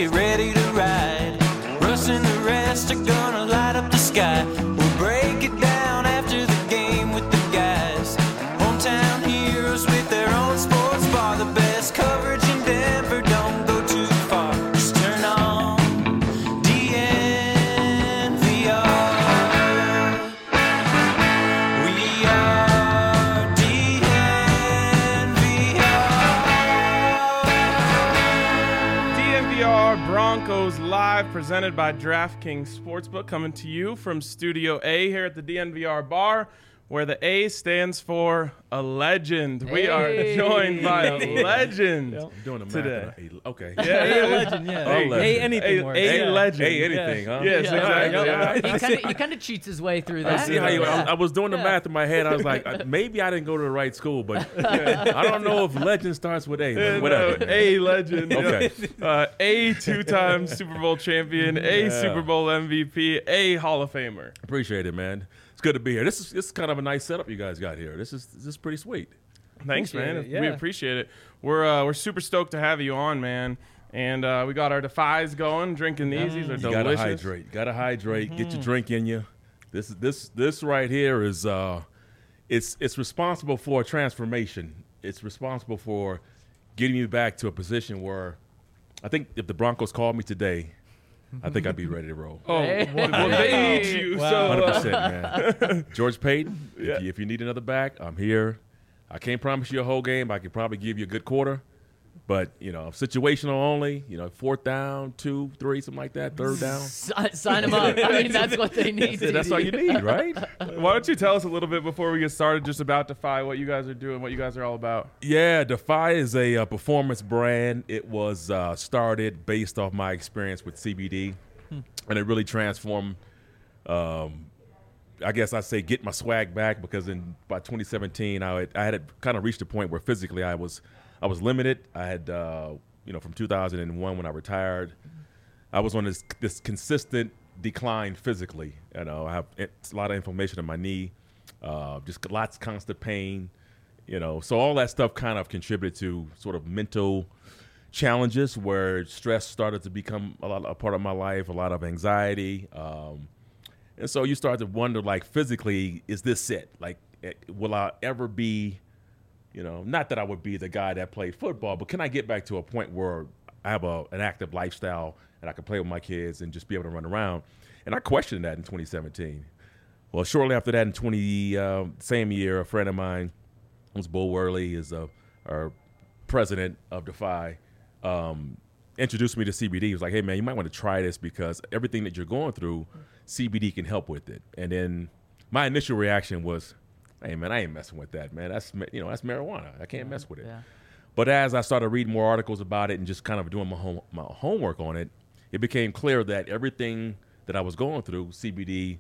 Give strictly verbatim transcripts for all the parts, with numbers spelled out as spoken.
get ready to ride. Russ and the rest are gonna light up the sky. We'll break it down after the game with the guys. Hometown heroes with their own sports bar. The best coverage in Denver, don't go too far. Just turn on D N V R. We are D N V R. D N V R Broncos Live, presented by DraftKings Sportsbook, coming to you from Studio A here at the D N V R bar, where the A stands for a legend. We are Hey. joined by a legend Yep. I'm doing the math. today. and I- Okay. Yeah, Hey, yeah. legend, yeah. Hey, legend. Hey, anything A, works. a yeah. legend. Hey, anything, huh? Yes, Yeah. exactly. All right, yeah. all right. He kind of he kind of cheats his way through I that. see how you. Yeah. I, I was doing the Yeah. math in my head. I was like, uh, maybe I didn't go to the right school, but I don't know if legend starts with A. Uh, But whatever. no, a legend. Okay. Uh, a two-time Super Bowl champion, a Yeah. Super Bowl M V P, a Hall of Famer. Appreciate it, man. It's good to be here. This is this is kind of a nice setup you guys got here. This is this is pretty sweet. Thanks, Appreciate man. it, yeah. We appreciate it. We're uh, we're super stoked to have you on, man. And uh, we got our Defies going, drinking these. These are You gotta delicious. hydrate. You gotta hydrate. Get your drink in you. This is this this right here is uh, it's it's responsible for a transformation. It's responsible for getting you back to a position where I think if the Broncos called me today, I think I'd be ready to roll. Oh, Hey. well, well, they need you. Wow. So, one hundred uh, percent, man. George Payton, Yeah. if, you, if you need another back, I'm here. I can't promise you a whole game. I could probably give you a good quarter. But, you know, situational only, you know, fourth down, two, three, something like that, third down. Si- sign him up. I mean, that's what they need. That's it. That's T D. all you need, right? why don't you tell us a little bit before we get started just about Defy, what you guys are doing, what you guys are all about? Yeah, Defy is a, uh performance brand. It was uh, started based off my experience with C B D, and it really transformed. Um, I guess I say get my swag back because in by twenty seventeen, I had, I had kind of reached a point where physically I was I was limited. I had uh, you know from two thousand one when I retired, I was on this this consistent decline physically. You know, I have it's a lot of inflammation in my knee, uh, just lots of constant pain. You know, so all that stuff kind of contributed to sort of mental challenges where stress started to become a lot a part of my life, a lot of anxiety. Um, and so you start to wonder, like, physically, is this it? Like, eh, will I ever be, you know, not that I would be the guy that played football, but can I get back to a point where I have a, an active lifestyle and I can play with my kids and just be able to run around? And I questioned that in twenty seventeen. Well, shortly after that, in twenty uh, same year, a friend of mine, who's Bo Worley, is uh, our president of Defy, um, introduced me to C B D. He was like, hey, man, you might want to try this because everything that you're going through, C B D can help with it. And then my initial reaction was, hey, man, I ain't messing with that, man. That's, you know, that's marijuana. I can't mess with it. Yeah. But as I started reading more articles about it and just kind of doing my home, my homework on it, it became clear that everything that I was going through, C B D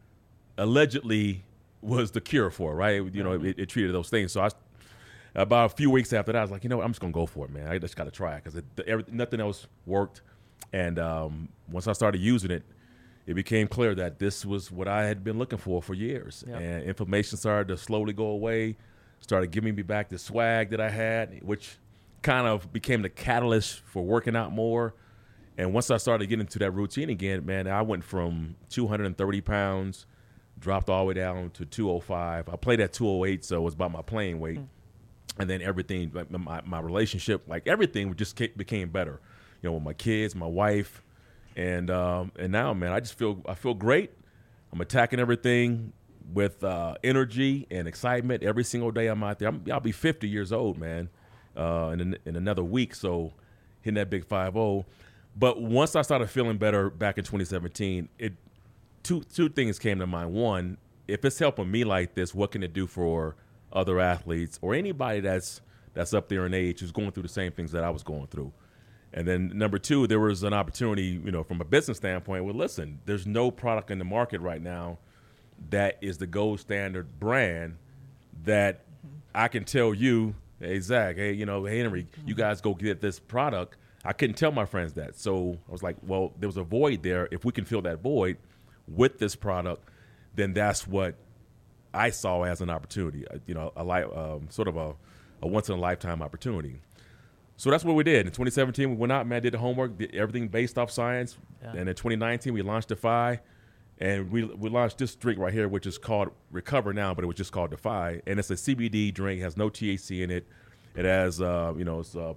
allegedly was the cure for, right? You know, it, it treated those things. So I, about a few weeks after that, I was like, you know what, I'm just going to go for it, man. I just got to try it because nothing else worked. And um, once I started using it, it became clear that this was what I had been looking for for years. Yep. And inflammation started to slowly go away, started giving me back the swag that I had, which kind of became the catalyst for working out more. And once I started getting into that routine again, man, I went from two hundred thirty pounds, dropped all the way down to two oh five. I played at two oh eight, so it was about my playing weight. Mm. And then everything, like my, my relationship, like everything just became better, you know, with my kids, my wife. And um, and now, man, I just feel I feel great. I'm attacking everything with uh, energy and excitement every single day I'm out there. I'm, I'll be fifty years old, man, uh, in, in another week, so hitting that big five oh. But once I started feeling better back in twenty seventeen, it two two things came to mind. One, if it's helping me like this, what can it do for other athletes or anybody that's that's up there in age who's going through the same things that I was going through? And then number two, there was an opportunity, you know, from a business standpoint. Well, listen, there's no product in the market right now that is the gold standard brand that I can tell you, hey, Zach, hey, you know, hey, Henry, you guys go get this product. I couldn't tell my friends that. So I was like, well, there was a void there. If we can fill that void with this product, then that's what I saw as an opportunity, you know, a li- um, sort of a, a once-in-a-lifetime opportunity. So that's what we did. In twenty seventeen, we went out, man, did the homework, did everything based off science. Yeah. And in twenty nineteen, we launched Defy. And we we launched this drink right here, which is called Recover now, but it was just called Defy. And it's a C B D drink, has no T H C in it. It has, uh, you know, it's, uh,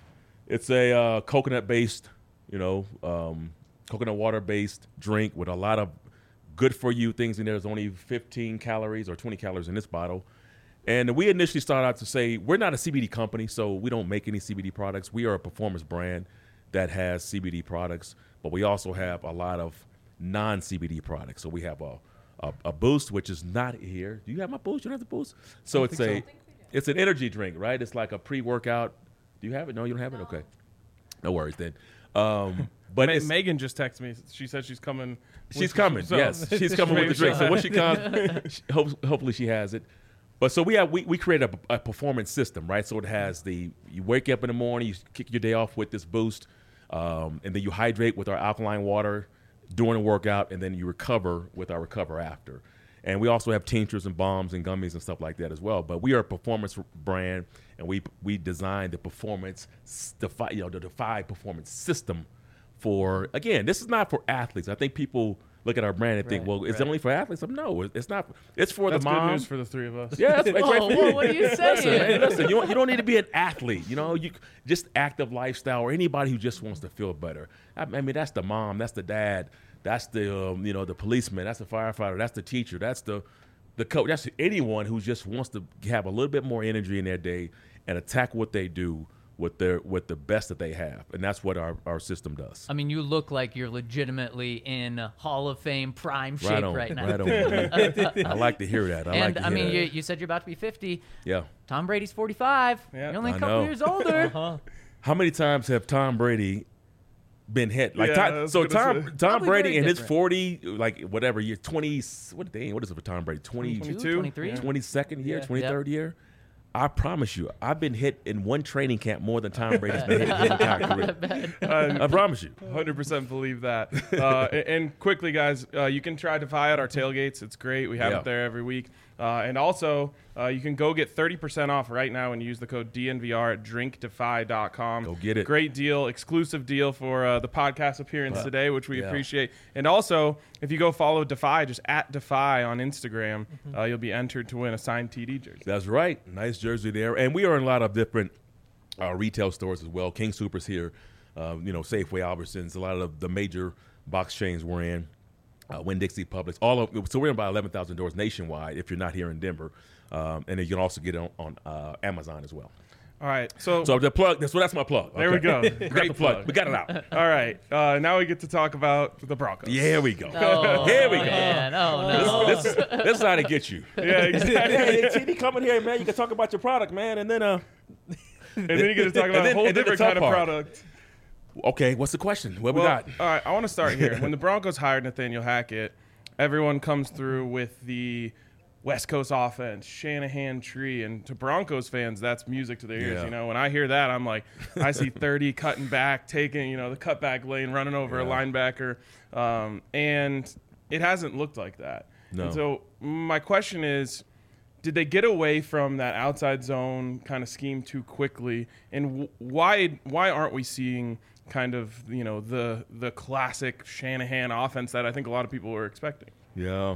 it's a uh, coconut-based, you know, um, coconut water-based drink with a lot of good-for-you things in there. There's only fifteen calories or twenty calories in this bottle. And we initially started out to say, we're not a C B D company, so we don't make any C B D products. We are a performance brand that has C B D products, but we also have a lot of non-C B D products. So we have a, a a Boost, which is not here. Do you have my Boost? You don't have the Boost? So it's a, it's an energy drink, right? It's like a pre-workout. Do you have it? No, you don't have it? Okay. No worries then. Um, but Ma- it's, Megan just texted me. She said she's coming. she's with- coming. so- Yes, she's coming with the drink. So when she comes, she, hope, hopefully she has it. But so we have we, we create a, a performance system, right? So it has the you wake up in the morning, you kick your day off with this Boost, um, and then you hydrate with our alkaline water during the workout, and then you recover with our Recover After. And we also have tinctures and bombs and gummies and stuff like that as well. But we are a performance brand, and we we designed the performance Defy, you know, the Defy performance system for, again, this is not for athletes. I think people look at our brand and think, Right, well, is right. it only for athletes? Um, No, it's not. It's for That's the good mom. news for the three of us. Yeah, that's, that's Whoa, right for whoa, you. what are you Listen, saying? man, listen, you don't, you don't need to be an athlete. You know, you just active lifestyle or anybody who just wants to feel better. I, I mean, that's the mom, that's the dad, that's the um, you know the policeman, that's the firefighter, that's the teacher, that's the the coach. That's anyone who just wants to have a little bit more energy in their day and attack what they do with their with the best that they have, and that's what our, our system does. I mean, you look like you're legitimately in Hall of Fame prime shape Right on, right now. right on. man. I like to hear that. I like And to I hear mean, that. you, you said you're about to be fifty. yeah. Tom Brady's forty-five. Yeah. You're only a I couple know. years older. How many times have Tom Brady been hit? Like Yeah, I Tom, was so gonna Tom say. Tom Probably Brady very in his different. forty, like whatever year, twenty. What dang? What is it for Tom Brady? twenty, twenty-two? twenty-three? Yeah. twenty-second year, Yeah. twenty-third year. I promise you, I've been hit in one training camp more than Tom Brady's been hit in his entire career. I promise you. one hundred percent believe that. Uh, and, and quickly, guys, uh, you can try Defy at our tailgates. It's great. We have Yeah. it there every week. Uh, and also, uh, you can go get thirty percent off right now and use the code D N V R at drink defy dot com. Go get it. Great deal, exclusive deal for uh, the podcast appearance Uh, today, which we yeah. appreciate. And also, if you go follow Defy, just at Defy on Instagram, uh, you'll be entered to win a signed T D jersey. That's right. Nice jersey there. And we are in a lot of different uh, retail stores as well. King Soopers here, uh, you know, Safeway, Albertsons, a lot of the major box chains we're in. Uh, Winn-Dixie, Publix, all of so we're in about eleven thousand doors nationwide if you're not here in Denver. Um, and then you can also get it on, on uh, Amazon as well. All right. So, So the plug, that's, so that's my plug. there we Okay. go. We got Great the plug. plug. We got it out. All right. Uh, now we get to talk about the Broncos. Here we go. Oh, Here we go. man. Oh, no. This, this, this is how they get you. Yeah, exactly. Hey, T D, come in here, man. You can talk about your product, man. And then, uh, And then you get to talk And about then- a whole and then the different tough kind of part. product. okay, what's the question? What we Well, got? all right, I want to start here. When the Broncos hired Nathaniel Hackett, everyone comes through with the West Coast offense, Shanahan tree, and to Broncos fans, that's music to their ears. Yeah. You know, when I hear that, I'm like, I see thirty cutting back, taking you know the cutback lane, running over a Yeah. linebacker, um, and it hasn't looked like that. No. And so my question is, did they get away from that outside zone kind of scheme too quickly, and w- why why aren't we seeing kind of you know the the classic Shanahan offense that I think a lot of people were expecting? Yeah.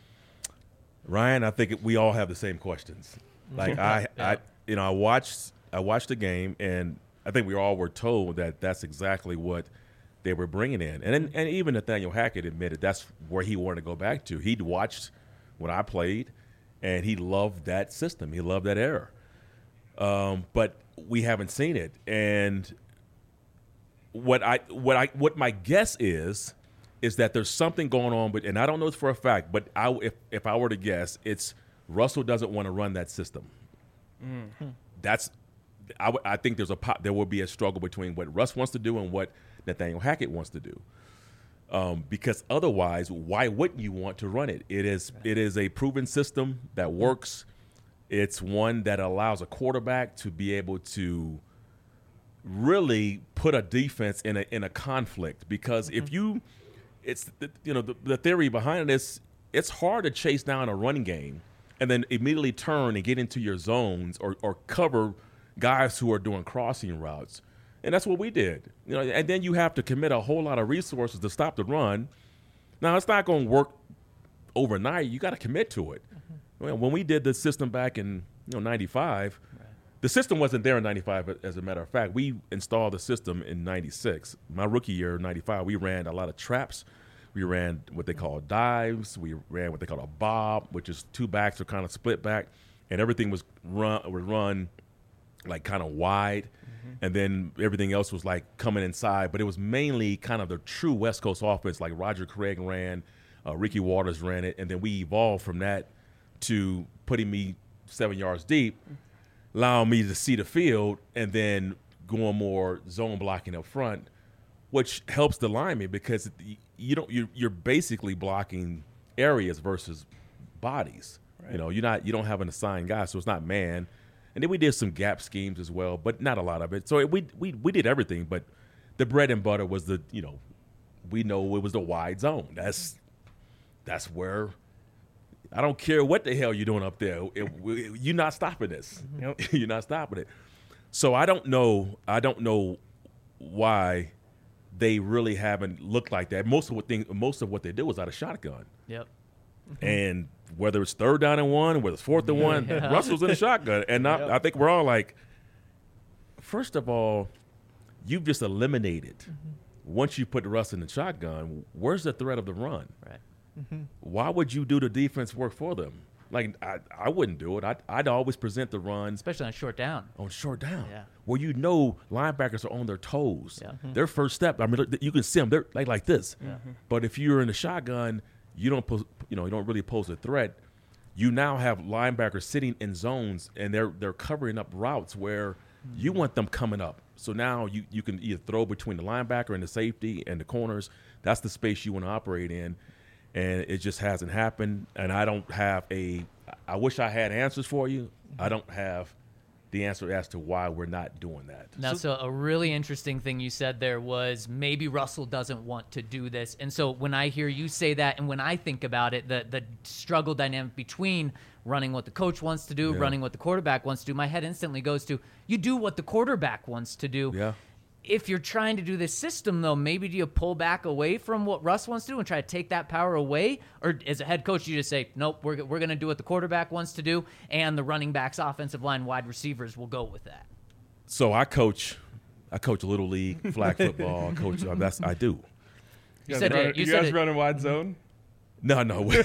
Ryan, I think we all have the same questions. Like I, I, you know, I watched, I watched the game, and I think we all were told that that's exactly what they were bringing in, and and even Nathaniel Hackett admitted that's where he wanted to go back to. He'd watched when I played, and he loved that system. He loved that era. Um, but we haven't seen it, and what I, what I, what my guess is. is that there's something going on, but and I don't know this for a fact, but I, if if I were to guess, it's Russell doesn't want to run that system. Mm. That's I, w- I think there's a pop, there will be a struggle between what Russ wants to do and what Nathaniel Hackett wants to do. Um, because otherwise, why wouldn't you want to run it? It is it is a proven system that works. It's one that allows a quarterback to be able to really put a defense in a in a conflict. Because if you It's the, you know the, the theory behind this. It's hard to chase down a running game and then immediately turn and get into your zones or, or cover guys who are doing crossing routes. And that's what we did. You know, and then you have to commit a whole lot of resources to stop the run. Now, it's not going to work overnight. You got to commit to it. Mm-hmm. Well, when we did the system back in you know ninety-five, right. The system wasn't there in ninety-five, as a matter of fact. We installed the system in ninety-six. My rookie year, ninety-five, we ran a lot of traps. We ran what they call dives. We ran what they call a bob, which is two backs are kind of split back, and everything was run was run like kind of wide, mm-hmm. and then everything else was like coming inside. But it was mainly kind of the true West Coast offense, like Roger Craig ran, uh, Ricky Waters ran it, and then we evolved from that to putting me seven yards deep, allowing me to see the field, and then going more zone blocking up front, which helps the lineman because you don't you're, you're basically blocking areas versus bodies. Right. You know, you're not you don't have an assigned guy, so it's not man. And then we did some gap schemes as well, but not a lot of it. So it, we we we did everything, but the bread and butter was the you know we know it was the wide zone. That's that's where. I don't care what the hell you're doing up there. It, it, you're not stopping this. Yep. You're not stopping it. So I don't know. I don't know why they really haven't looked like that. Most of what thing, most of what they did was out of shotgun. Yep. Mm-hmm. And whether it's third down and one, whether it's fourth and one, yeah. Russell's in a shotgun. And I, yep. I think we're all like, first of all, you've just eliminated. Mm-hmm. Once you put Russ in the shotgun, where's the threat of the run? Right. Mm-hmm. Why would you do the defense work for them? Like, I, I wouldn't do it. I'd, I'd always present the run. Especially on short down. On short down. Yeah. Where you know linebackers are on their toes. Yeah. Mm-hmm. Their first step, I mean, you can see them. They're like, like this. Yeah. But if you're in the shotgun, you don't pose, you know, you don't really pose a threat. You now have linebackers sitting in zones, and they're they're covering up routes where mm-hmm. you want them coming up. So now you, you can either throw between the linebacker and the safety and the corners. That's the space you want to operate in. And it just hasn't happened. And I don't have a – I wish I had answers for you. I don't have the answer as to why we're not doing that. Now, so, so a really interesting thing you said there was maybe Russell doesn't want to do this. And so when I hear you say that and when I think about it, the, the struggle dynamic between running what the coach wants to do, yeah. running what the quarterback wants to do, my head instantly goes to you do what the quarterback wants to do. Yeah. If you're trying to do this system, though, maybe do you pull back away from what Russ wants to do and try to take that power away? Or as a head coach, you just say, nope, we're, we're going to do what the quarterback wants to do, and the running backs, offensive line, wide receivers will go with that. So I coach I coach Little League, flag football. Coach, that's I do. You, you said run, it. You, you said guys it. running wide zone? No, no. Well,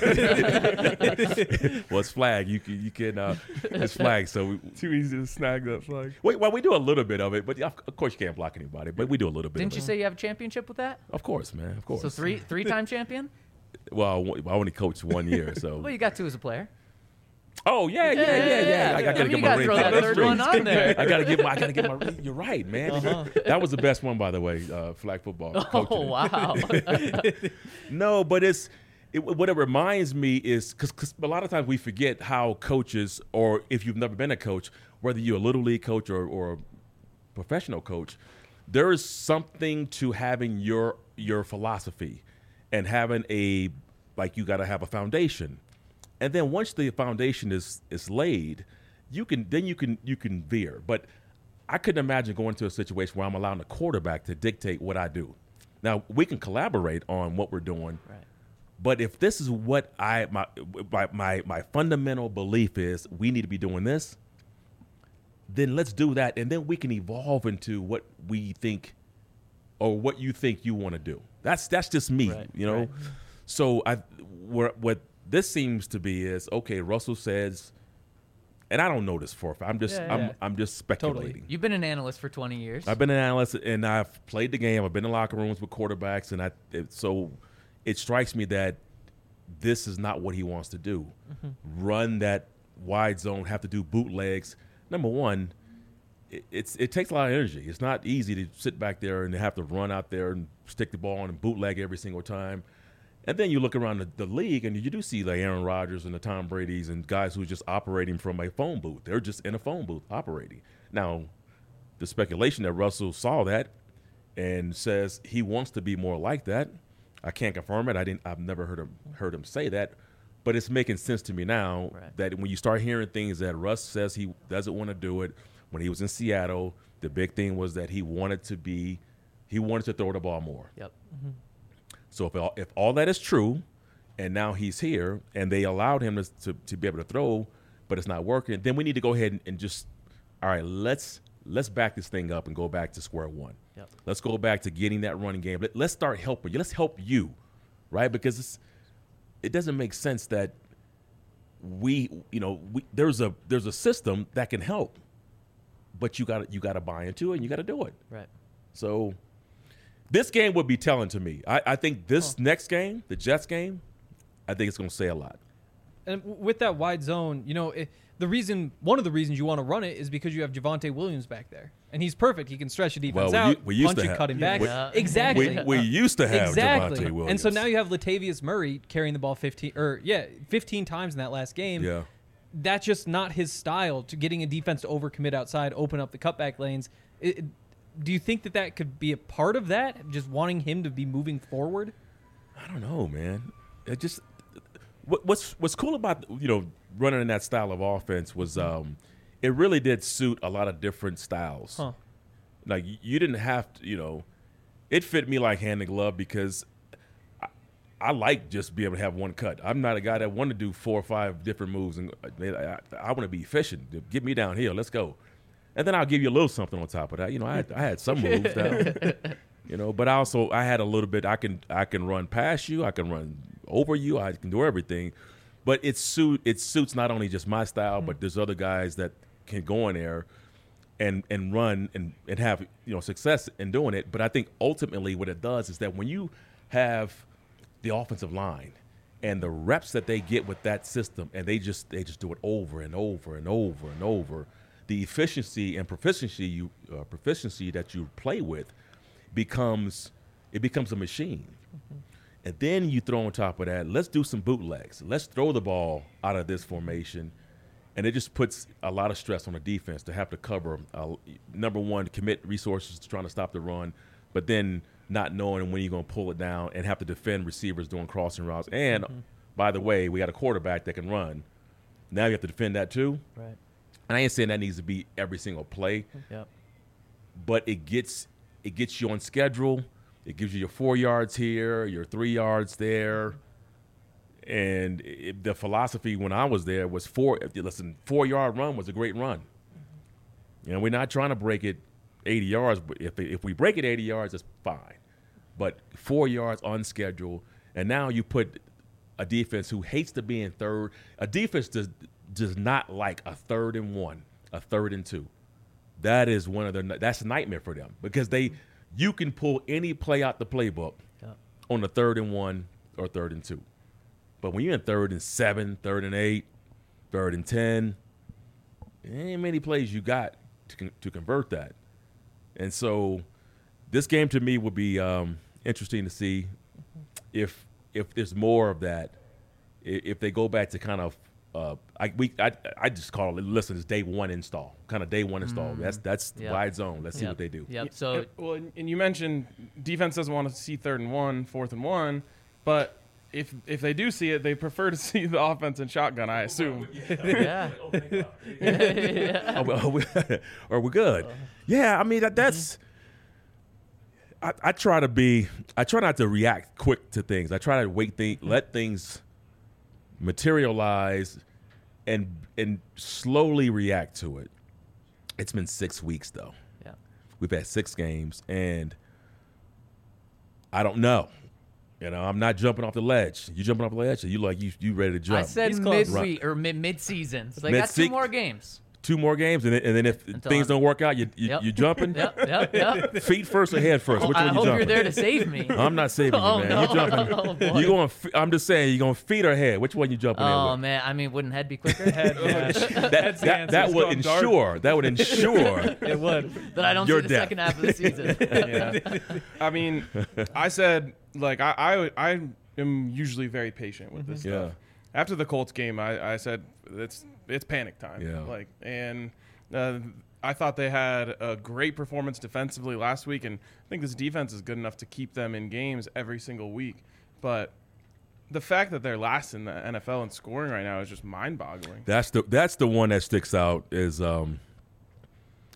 it's flag. You can, you can. Uh, it's flag. So we, too easy to snag that flag. Wait, well, we do a little bit of it, but of course you can't block anybody. But we do a little bit. Didn't of you it. say you have a championship with that? Of course, man. Of course. So three, three-time champion. Well, I only coached one year, so. Well, you got two as a player. Oh yeah, yeah, yeah, yeah. yeah. yeah. I, I gotta I mean, get you my gotta ring. throw that That's third true. one on there. I gotta get my. I gotta get my. ring. You're right, man. Uh-huh. That was the best one, by the way. Uh, flag football. Oh wow. No, but it's. It, what it reminds me is because a lot of times we forget how coaches, or if you've never been a coach, whether you're a little league coach or, or a professional coach, there is something to having your your philosophy and having a like you got to have a foundation, and then once the foundation is is laid, you can then you can you can veer. But I couldn't imagine going to a situation where I'm allowing the quarterback to dictate what I do. Now we can collaborate on what we're doing. Right. But if this is what I my, my my my fundamental belief is, we need to be doing this, then let's do that, and then we can evolve into what we think, or what you think you want to do. That's that's just me, right, you know. Right. So I where, what this seems to be is okay. Russell says, and I don't know this for a fact. I'm just yeah, I'm yeah. I'm just speculating. Totally. You've been an analyst for twenty years. I've been an analyst, and I've played the game. I've been in locker rooms with quarterbacks, and I it, so. It strikes me that this is not what he wants to do. Mm-hmm. Run that wide zone, have to do bootlegs. Number one, it, it's it takes a lot of energy. It's not easy to sit back there and have to run out there and stick the ball on and bootleg every single time. And then you look around the, the league, and you do see the Aaron Rodgers and the Tom Brady's and guys who are just operating from a phone booth. They're just in a phone booth operating. Now, the speculation that Russell saw that and says he wants to be more like that, I can't confirm it. I didn't. I've never heard him heard him say that, but it's making sense to me now right. that when you start hearing things that Russ says he doesn't want to do it, when he was in Seattle, the big thing was that he wanted to be, he wanted to throw the ball more. Yep. Mm-hmm. So if all, if all that is true, and now he's here, and they allowed him to, to to be able to throw, but it's not working, then we need to go ahead and, and just, all right, let's let's back this thing up and go back to square one. Yep. Let's go back to getting that running game. Let, let's start helping you. Let's help you, right? Because it's, it doesn't make sense that we, you know, we, there's a there's a system that can help, but you got you got to buy into it and you got to do it. Right. So this game would be telling to me. I, I think this Oh. next game, the Jets game, I think it's going to say a lot. And w- with that wide zone, you know, it, the reason, one of the reasons you want to run it is because you have Javonte Williams back there, and he's perfect. He can stretch the defense Well, we out, u- we used punch to it, have- cut him Yeah. back. Yeah. Exactly. We, we used to have exactly. Javonte Williams. And so now you have Latavius Murray carrying the ball fifteen or yeah, fifteen times in that last game. Yeah. That's just not his style, to getting a defense to overcommit outside, open up the cutback lanes. It, it- do you think that that could be a part of that, just wanting him to be moving forward? I don't know, man. It just what, what's what's cool about, you know, running in that style of offense was um, it really did suit a lot of different styles. Huh. Like y- you didn't have to, you know, it fit me like hand in glove because I, I like just being able to have one cut. I'm not a guy that want to do four or five different moves, and I, I, I want to be efficient. Get me downhill. Let's go. And then I'll give you a little something on top of that. You know, I had, I had some moves down. You know, but I also I had a little bit. I can I can run past you. I can run over you. I can do everything. But it suit it suits not only just my style, but there's other guys that can go in there and and run and, and have, you know, success in doing it. But I think ultimately what it does is that when you have the offensive line and the reps that they get with that system, and they just they just do it over and over and over and over, the efficiency and proficiency you uh, proficiency that you play with becomes it becomes a machine. Mm-hmm. And then you throw on top of that, let's do some bootlegs. Let's throw the ball out of this formation. And it just puts a lot of stress on the defense to have to cover, uh, number one, commit resources to trying to stop the run, but then not knowing when you're going to pull it down and have to defend receivers doing crossing routes. And, mm-hmm. by the way, we got a quarterback that can run. Now you have to defend that too. Right. And I ain't saying that needs to be every single play, Yep. but it gets it gets you on schedule. It gives you your four yards here, your three yards there. And it, the philosophy when I was there was four. Listen, four-yard run was a great run. You know, we're not trying to break it eighty yards. But if if we break it eighty yards, it's fine. But four yards on schedule, and now you put a defense who hates to be in third. A defense does does not like a third and one, a third and two. That is one of the that's a nightmare for them because they you can pull any play out the playbook Yeah. on the third and one or third and two. But when you're in third and seven, third and eight, third and ten, there ain't many plays you got to con- to convert that. And so this game to me would be um, interesting to see if if there's more of that. I- If they go back to kind of uh, I we I, I just call it listen it's day one install, kind of day one install. That's that's Yep. wide zone. Let's see Yep. what they do. Yep. Yeah, So and- well, and and you mentioned defense doesn't want to see third and one, fourth and one, but if if they do see it, they prefer to see the offense in shotgun, I assume. yeah. Are we, are we, are we good? Yeah, I mean that, that's. I, I try to be. I try not to react quick to things. I try to wait, think, let things materialize, and and slowly react to it. It's been six weeks though. Yeah. We've had six games, and I don't know. You know, I'm not jumping off the ledge. You jumping off the ledge? Or you like you you ready to jump? I said He's close. mid or mid mid season. So they got two Mid-se- more games. Two more games, and then, and then if Until things I'm- don't work out, you you, Yep. you jumping. Yep. Yep. Yep. Feet first or head first? Which I one you hope jumping? you're there to save me. I'm not saving you, Oh, man. no. You're jumping. Oh, boy. You going? f- I'm just saying. You going feet or head? Which one you jumping in Oh with? man, I mean, wouldn't head be quicker? Head, yeah. That That's the that, answer. that It's would going dark. ensure. That would ensure. It would. that I don't You're see the deaf. second half of the season. Yeah. I mean, I said like I, I I am usually very patient with this Yeah. stuff. After the Colts game, I, I said it's it's panic time. Yeah. Like and uh, I thought they had a great performance defensively last week, and I think this defense is good enough to keep them in games every single week. But the fact that they're last in the N F L in scoring right now is just mind-boggling. That's the that's the one that sticks out. Is um,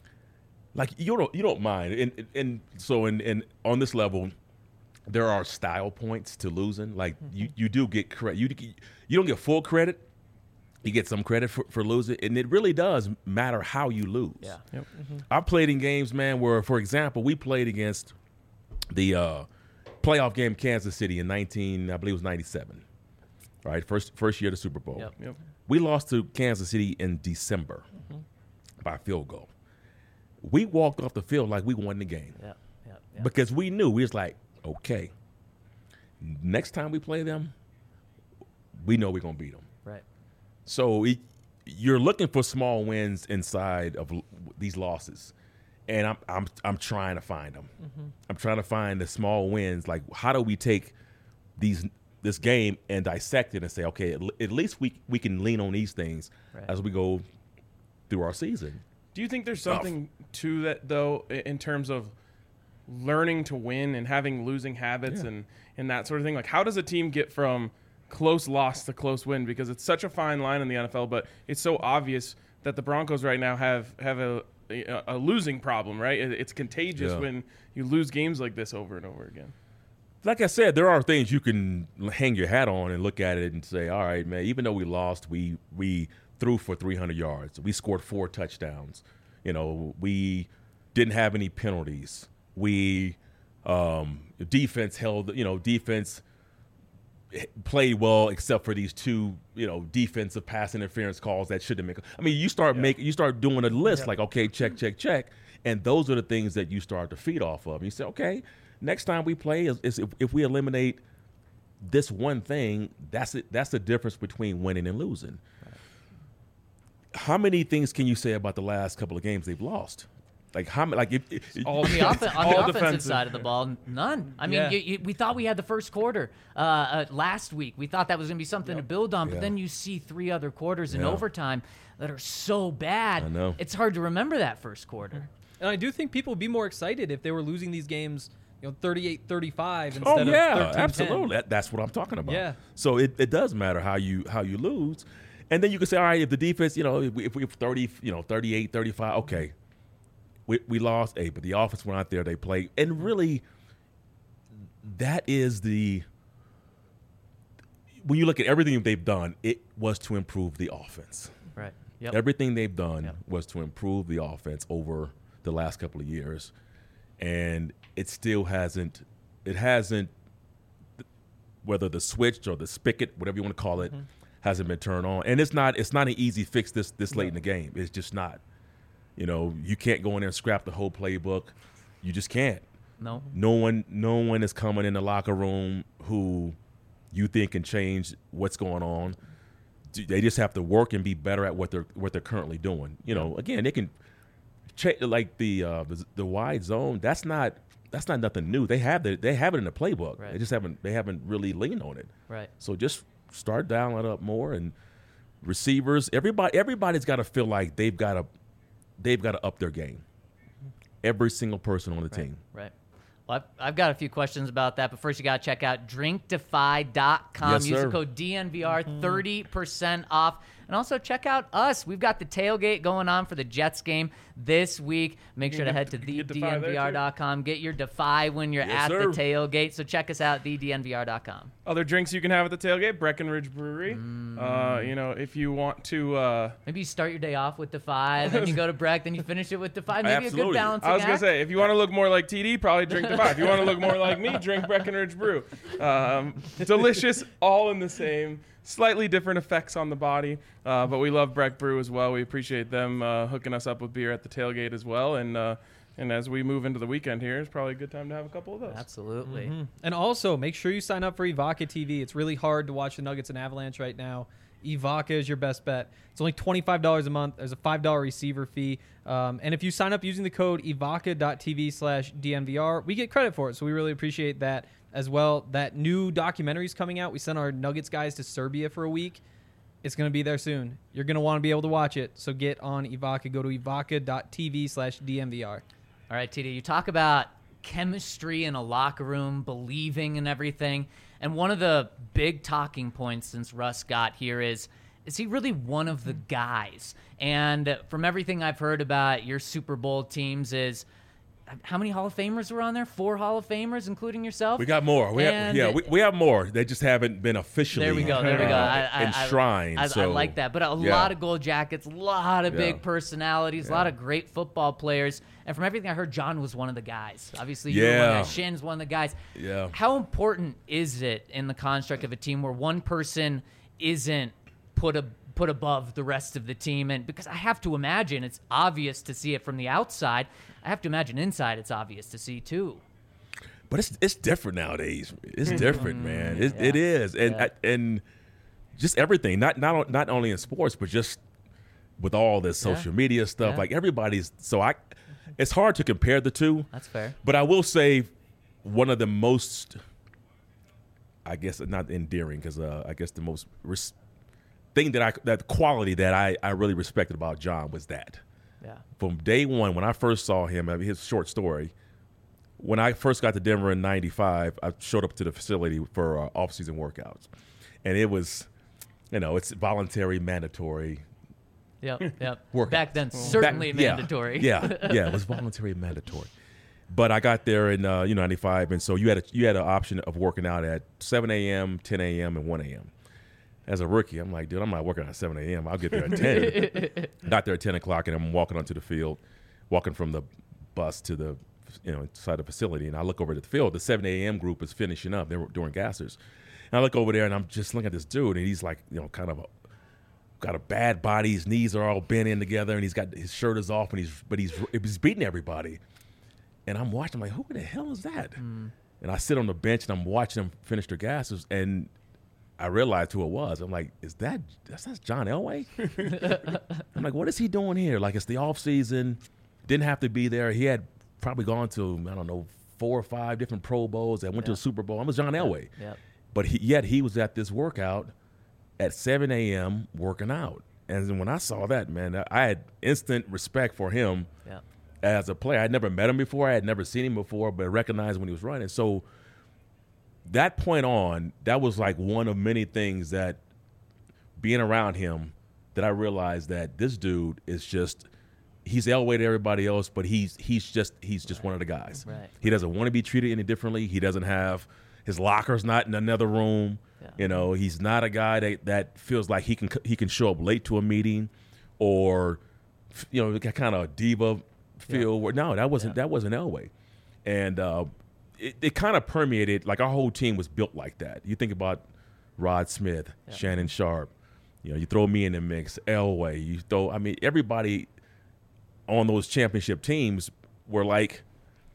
like you don't you don't mind, and and so in, in on this level, there are style points to losing. Like mm-hmm. you, you do get credit. You you don't get full credit. You get some credit for, for losing, and it really does matter how you lose. Yeah. Yep. Mm-hmm. I played in games, man, where, for example, we played against the uh, playoff game Kansas City in nineteen, I believe it was ninety-seven. Right, first first year of the Super Bowl. Yep. Yep. We lost to Kansas City in December mm-hmm. by field goal. We walked off the field like we won the game. Yeah. Yeah. Yeah. Because we knew, we was like, okay, next time we play them, we know we're going to beat them. Right. So it, you're looking for small wins inside of l- these losses. And I'm I'm I'm trying to find them. Mm-hmm. I'm trying to find the small wins. Like, how do we take these this game and dissect it and say, okay, at, l- at least we we can lean on these things Right. as we go through our season. Do you think there's something to that, though, i- in terms of learning to win and having losing habits Yeah. and, and that sort of thing? Like, how does a team get from close loss to close win? Because it's such a fine line in the N F L, but it's so obvious that the Broncos right now have, have a, a, a losing problem, right? It- It's contagious Yeah. when you lose games like this over and over again. Like I said, there are things you can hang your hat on and look at it and say, all right, man, even though we lost, we we threw for three hundred yards. We scored four touchdowns. You know, we didn't have any penalties. We um, defense held, you know, defense played well except for these two, you know, defensive pass interference calls that shouldn't make. I mean, you start Yeah. making, you start doing a list Yeah. like, okay, check, check, check, and those are the things that you start to feed off of. You say, okay, next time we play, is, is if, if we eliminate this one thing, that's it. That's the difference between winning and losing. Right. How many things can you say about the last couple of games they've lost? Like how many? Like if, if All On the, off- on all the offensive defensive. side of the ball, none. I mean, Yeah. you, you, we thought we had the first quarter uh, uh, last week. We thought that was going to be something to build on, but Yeah. then you see three other quarters in Yeah. overtime that are so bad. I know. It's hard to remember that first quarter. And I do think people would be more excited if they were losing these games, you know, thirty-eight thirty-five instead Oh of yeah, thirteen ten. absolutely. That, that's what I'm talking about. Yeah. So it, it does matter how you how you lose, and then you can say, all right, if the defense, you know, if we, if we have thirty, you know, thirty-eight, thirty-five, okay, we we lost eight, but the offense went out there, they played, and really, that is the when you look at everything they've done, it was to improve the offense. Right. Yep. Everything they've done Yep. was to improve the offense over the last couple of years, and it still hasn't. It hasn't. Whether the switch or the spigot, whatever you want to call it, Mm-hmm. hasn't been turned on, and it's not. It's not an easy fix this this late in the game. It's just not. You know, you can't go in there and scrap the whole playbook. You just can't. No. No one, no one is coming in the locker room who you think can change what's going on. They just have to work and be better at what they're what they're currently doing. You know, again, they can check like the uh, the, the wide zone. That's not that's not nothing new. They have the, they have it in the playbook. Right. They just haven't they haven't really leaned on it. Right. So just start dialing it up more, and receivers. Everybody everybody's got to feel like they've got to they've got to up their game. Every single person on the team. Right. Well, I've, I've got a few questions about that, but first you got to check out drink defy dot com. Yes, Use sir. the code D N V R, thirty percent off. And also check out us. We've got the tailgate going on for the Jets game this week. Make You sure to can head get- to you the can D get Defy N V R dot com. Get your Defy when you're Yes, at sir. the tailgate. So check us out, the D N V R dot com. Other drinks you can have at the tailgate, Breckenridge Brewery. Mm. Uh, you know, if you want to, uh, Maybe you start your day off with Defy, then you go to Breck, then you finish it with Defy. Maybe a Absolutely. good balancing I was gonna act. say, if you want to look more like T D, probably drink Defy. If you want to look more like me, drink Breckenridge Brew. Um, delicious, all in the same. Slightly different effects on the body, uh, but we love Breck Brew as well. We appreciate them uh, hooking us up with beer at the tailgate as well. And uh, and as we move into the weekend here, it's probably a good time to have a couple of those. Absolutely. Mm-hmm. And also, make sure you sign up for Evoca T V. It's really hard to watch the Nuggets and Avalanche right now. Evoca is your best bet. It's only twenty-five dollars a month. There's a five dollars receiver fee. Um, and if you sign up using the code evoca dot t v slash D N V R, we get credit for it. So we really appreciate that as well. That new documentary is coming out. We sent our Nuggets guys to Serbia for a week. It's going to be there soon. You're going to want to be able to watch it. So get on Evoca. Go to evoca dot t v slash D N V R. All right, T D, you talk about chemistry in a locker room, believing in everything. And one of the big talking points since Russ got here is is he really one of the guys? And from everything I've heard about your Super Bowl teams is, how many Hall of Famers were on there? Four Hall of Famers, including yourself? We got more. We have, And- yeah, we, we have more. They just haven't been officially There we go. There we go. uh, I, I, enshrined. I, I, so, I like that. But a yeah. lot of gold jackets, a lot of Yeah. big personalities, a lot of great football players. And from everything I heard, John was one of the guys. Obviously, you were one of the Yeah. guys. Shin's one of the guys. Yeah. How important is it in the construct of a team where one person isn't put a put above the rest of the team? And because I have to imagine it's obvious to see it from the outside, I have to imagine inside it's obvious to see too. But it's it's different nowadays. It's different, man. It, it Yeah. is, and Yeah. and just everything. Not not not only in sports, but just with all this social media stuff. Yeah. Like everybody's. So I, it's hard to compare the two. That's fair. But I will say, one of the most, I guess not endearing, because uh, I guess the most res- thing that I that quality that I I really respected about John was that. Yeah. From day one, when I first saw him, I mean, his short story, when I first got to Denver in ninety-five, I showed up to the facility for uh, off-season workouts. And it was, you know, it's voluntary, mandatory. Yep. Yep. Workout. Back then, certainly Back- yeah, mandatory. Yeah, yeah, it was voluntary and mandatory. But I got there in, uh, you know, ninety-five, and so you had a, you had an option of working out at seven a.m., ten a.m., and one a.m. As a rookie, I'm like, dude, I'm not working at seven a.m. I'll get there at ten. Got there at ten o'clock, and I'm walking onto the field, walking from the bus to the, you know, inside the facility, and I look over at the field. The seven a.m. group is finishing up. They were doing gassers. And I look over there, and I'm just looking at this dude, and he's like, you know, kind of a, got a bad body. His knees are all bent in together, and he's got his shirt is off, and he's but he's he's beating everybody. And I'm watching, I'm like, who the hell is that? Mm. And I sit on the bench, and I'm watching them finish their gassers, and I realized who it was. I'm like, is that that's, that's John Elway? I'm like, what is he doing here? Like, it's the off season. Didn't have to be there. He had probably gone to, I don't know, four or five different Pro Bowls that went to Yeah. a Super Bowl. I'm a John Elway. Yep. But he, yet he was at this workout at seven a.m. working out. And then when I saw that, man, I had instant respect for him Yep. as a player. I had never met him before. I had never seen him before, but I recognized when he was running. So that point on, that was like one of many things that being around him that I realized that this dude is just he's Elway to everybody else, but he's he's just he's just one of the guys. Right. He doesn't want to be treated any differently. He doesn't have his locker's not in another room. Yeah. You know, he's not a guy that, that feels like he can he can show up late to a meeting or you know, that kind of diva feel. Where, no, that wasn't Yeah. that wasn't Elway. And uh, it, it kind of permeated, like our whole team was built like that. You think about Rod Smith, Yeah. Shannon Sharp, you know, you throw me in the mix, Elway, you throw, I mean, everybody on those championship teams were like,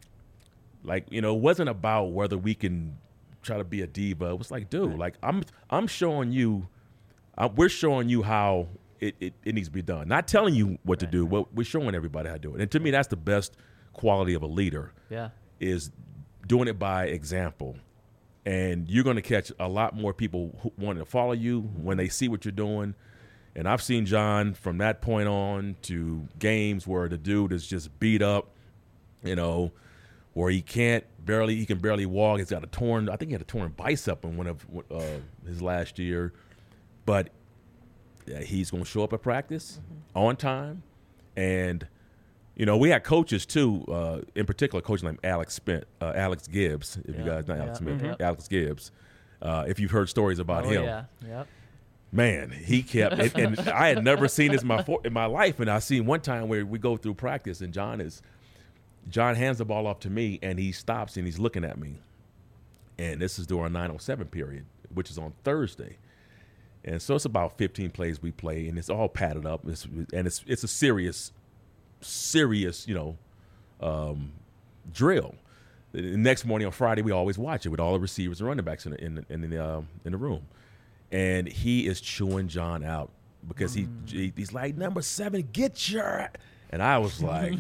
like, you know, it wasn't about whether we can try to be a diva. It was like, dude, Right. like I'm, I'm showing you, uh, we're showing you how it, it, it needs to be done. Not telling you what to Right, do, right. but we're showing everybody how to do it. And to me, that's the best quality of a leader Yeah. is doing it by example. And you're going to catch a lot more people who wanting to follow you when they see what you're doing. And I've seen John from that point on to games where the dude is just beat up, you know, where he can't barely, he can barely walk. He's got a torn, I think he had a torn bicep in one of uh, his last year. But yeah, he's going to show up at practice Mm-hmm. on time. And you know, we had coaches too, uh, in particular, a coach named Alex Spent, uh, Alex Gibbs. If you Yeah, guys not Alex yeah, Smith, mhm. Alex Gibbs. Uh, if you've heard stories about Oh, him, yeah. Yep. man, he kept. and, and I had never seen this in my for, in my life, and I seen one time where we go through practice, and John is, John hands the ball off to me, and he stops and he's looking at me, and this is during nine oh seven period, which is on Thursday. And so it's about fifteen plays we play, and it's all padded up, it's, and it's it's a serious. serious, you know, um, drill. The next morning on Friday, we always watch it with all the receivers and running backs in the, in the, in the, uh, in the room. And he is chewing John out because he, he he's like, number seven, get your – and I was like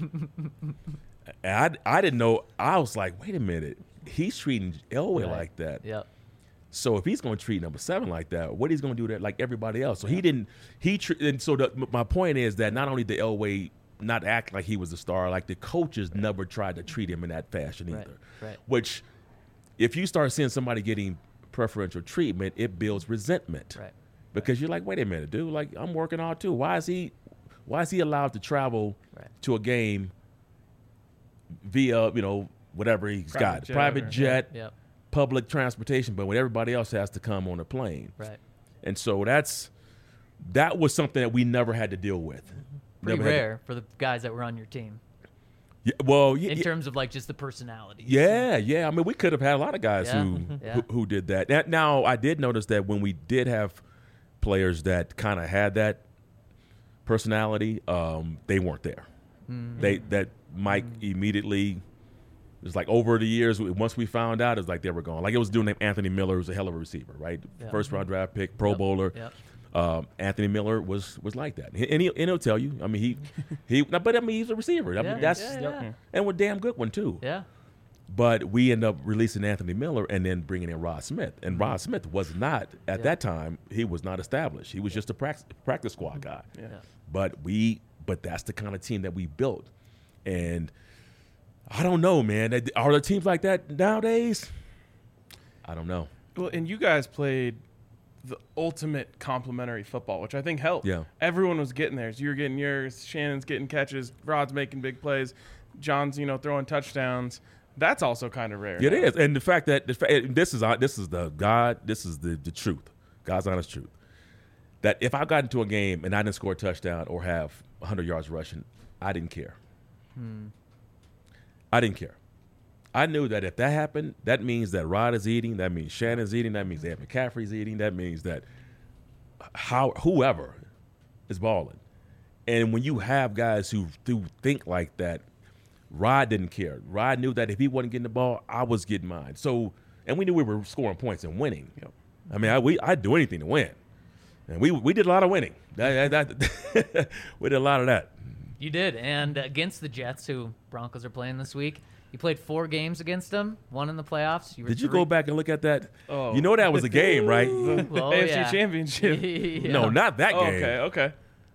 – I, I didn't know – I was like, wait a minute. He's treating Elway Right. like that. Yep. So if he's going to treat number seven like that, what he's going to do that like everybody else? So he didn't. He tr- and so the, my point is that not only did Elway not act like he was a star, like the coaches never tried to treat him in that fashion either. Right, right. Which, if you start seeing somebody getting preferential treatment, it builds resentment. Right. because you're like, wait a minute, dude. Like, I'm working hard too. Why is he, why is he allowed to travel Right. to a game via, you know, whatever he's Private got, jet private or- jet, Yep. public transportation, but when everybody else has to come on a plane. Right. And so that's that was something that we never had to deal with. Pretty Never had to- rare for the guys that were on your team yeah, well, yeah, in yeah, terms of like just the personalities. yeah, yeah. I mean, we could have had a lot of guys Yeah. who, Yeah. who who did that. Now, now, I did notice that when we did have players that kind of had that personality, um, they weren't there. They that Mike immediately. It was like over the years, once we found out, it was like they were gone. Like it was a dude named Anthony Miller, who's a hell of a receiver, right? Yeah. First round draft pick, Pro Yep. Bowler. Yep. Um, Anthony Miller was was like that, and, he, and he'll tell you. I mean, he he. But I mean, he's a receiver. I Yeah, mean, that's yeah, yeah. and we're a damn good one too. Yeah. But we end up releasing Anthony Miller and then bringing in Rod Smith, and Mm-hmm. Rod Smith was not at Yeah. that time. He was not established. He was just a practice practice squad guy. Yeah. Yeah. But we, but that's the kind of team that we built, and. I don't know, man. Are there teams like that nowadays? I don't know. Well, and you guys played the ultimate complementary football, which I think helped. Yeah. Everyone was getting theirs. You were getting yours. Shannon's getting catches. Rod's making big plays. John's, you know, throwing touchdowns. That's also kind of rare. It is, and the fact that the fa- this is this is the God, this is the the truth, God's honest truth. That if I got into a game and I didn't score a touchdown or have one hundred yards rushing, I didn't care. I didn't care. I knew that if that happened, that means that Rod is eating. That means Shannon's eating. That means that McCaffrey's eating. That means that how whoever is balling. And when you have guys who do think like that, Rod didn't care. Rod knew that if he wasn't getting the ball, I was getting mine. So, and we knew we were scoring points and winning. Yep. I mean, I, we I'd do anything to win, and we we did a lot of winning. That, that, that we did a lot of that. You did, and against the Jets, who Broncos are playing this week, you played four games against them, one in the playoffs. You were Did you three- go back and look at that? Oh. You know that was a game, right? Well, A F C yeah. Championship. Yeah. No, not that Oh, game. okay, okay.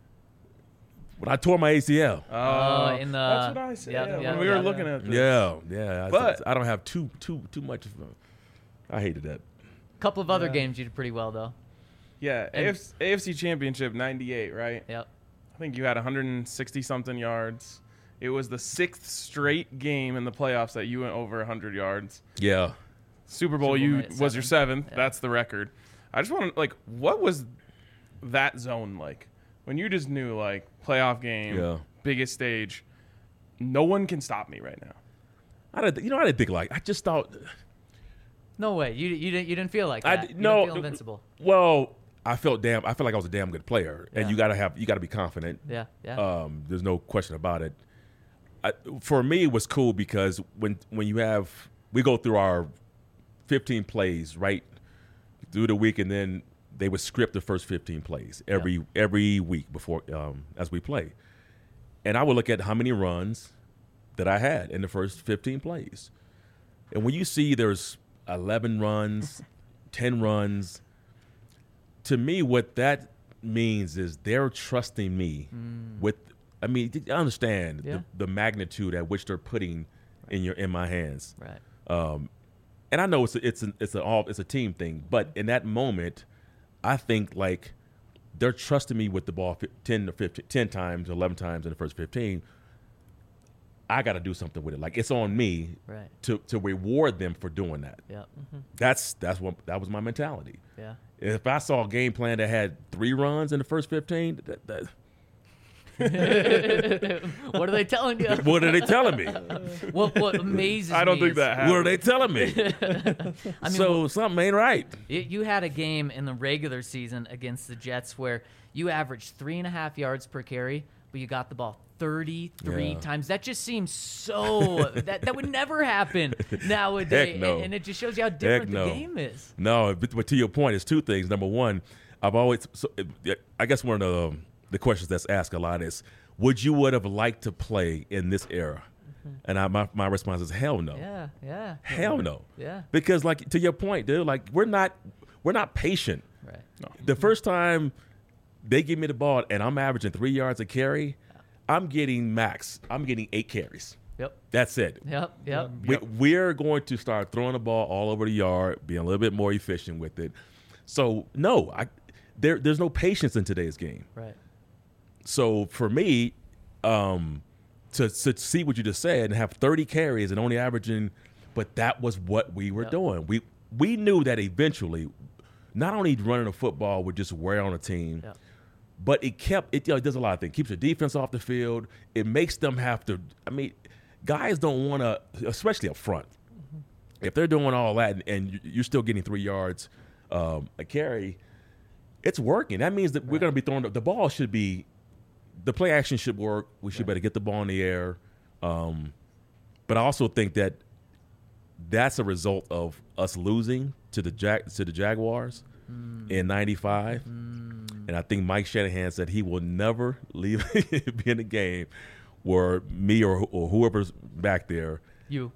When I tore my A C L. Oh, in the- that's what I said. yeah, Yeah, yeah, when we were yeah, looking yeah. at this. Yeah, yeah. I, But- I don't have too too too much. Of, I hated that. couple of other Yeah. games you did pretty well, though. Yeah, And- A F C, A F C Championship ninety-eight, right? Yep. I think you had one hundred sixty something yards. It was the sixth straight game in the playoffs that you went over one hundred yards. Yeah. Super Bowl, Super Bowl you night, was your seven. seventh. Yeah. That's the record. I just want to like, what was that zone like when you just knew like playoff game, Yeah. biggest stage? No one can stop me right now. I didn't. You know, I didn't think like. I just thought. No way. You you didn't you didn't feel like I that. d- You no. didn't feel invincible. Well, I felt damn. I felt like I was a damn good player, and Yeah. you gotta have. You gotta be confident. Yeah. Yeah. Um, there's no question about it. I, for me, it was cool because when when you have we go through our fifteen plays right through the week, and then they would script the first fifteen plays every every week before um, as we play, and I would look at how many runs that I had in the first fifteen plays, and when you see there's eleven runs, ten runs, to me, what that means is they're trusting me with. I mean, you understand Yeah. the, the magnitude at which they're putting in your in my hands. right. Um, and I know it's a, it's an, it's a all it's a team thing, but in that moment, I think like they're trusting me with the ball fi- ten to fifteen, ten times, eleven times in the first fifteen. I got to do something with it. Like it's on me Right. to to reward them for doing that. Yeah. That's that's what that was my mentality. Yeah. If I saw a game plan that had three runs in the first fifteen, that, that, What are they telling you? what are they telling me? what what amazes I don't me think is that happened. What are they telling me? I mean, so something ain't right. You, you had a game in the regular season against the Jets where you averaged three and a half yards per carry, but you got the ball thirty-three Yeah. times. That just seems so that that would never happen nowadays. Heck no. and, and it just shows you how different no. the game is. No, but, but to your point, it's two things. Number one, I've always, so, I guess one of the, the questions that's asked a lot is, would you would have liked to play in this era? And I, my, my response is hell no. Yeah, yeah, Hell no. yeah. Because like to your point, dude, like we're not we're not patient. Right. The first time they give me the ball and I'm averaging three yards a carry, I'm getting max. I'm getting eight carries. Yep. That's it. Yep. Yep. We, we're going to start throwing the ball all over the yard, being a little bit more efficient with it. So no, I there there's no patience in today's game. Right. So for me, um, to to see what you just said and have thirty carries and only averaging, but that was what we were Yep. doing. We we knew that eventually, not only running a football would just wear on a team, Yep. but it kept it. You know, it does a lot of things. Keeps the defense off the field. It makes them have to. I mean, guys don't want to, especially up front. If they're doing all that and, and you're still getting three yards um, a carry, it's working. That means that we're going to be throwing the, the ball should be, the play action should work. We should Right. better get the ball in the air. Um, but I also think that that's a result of us losing to the Jag to the Jaguars Mm. in ninety-five. Mm. And I think Mike Shanahan said he will never leave be in a game where me or, or whoever's back there, You.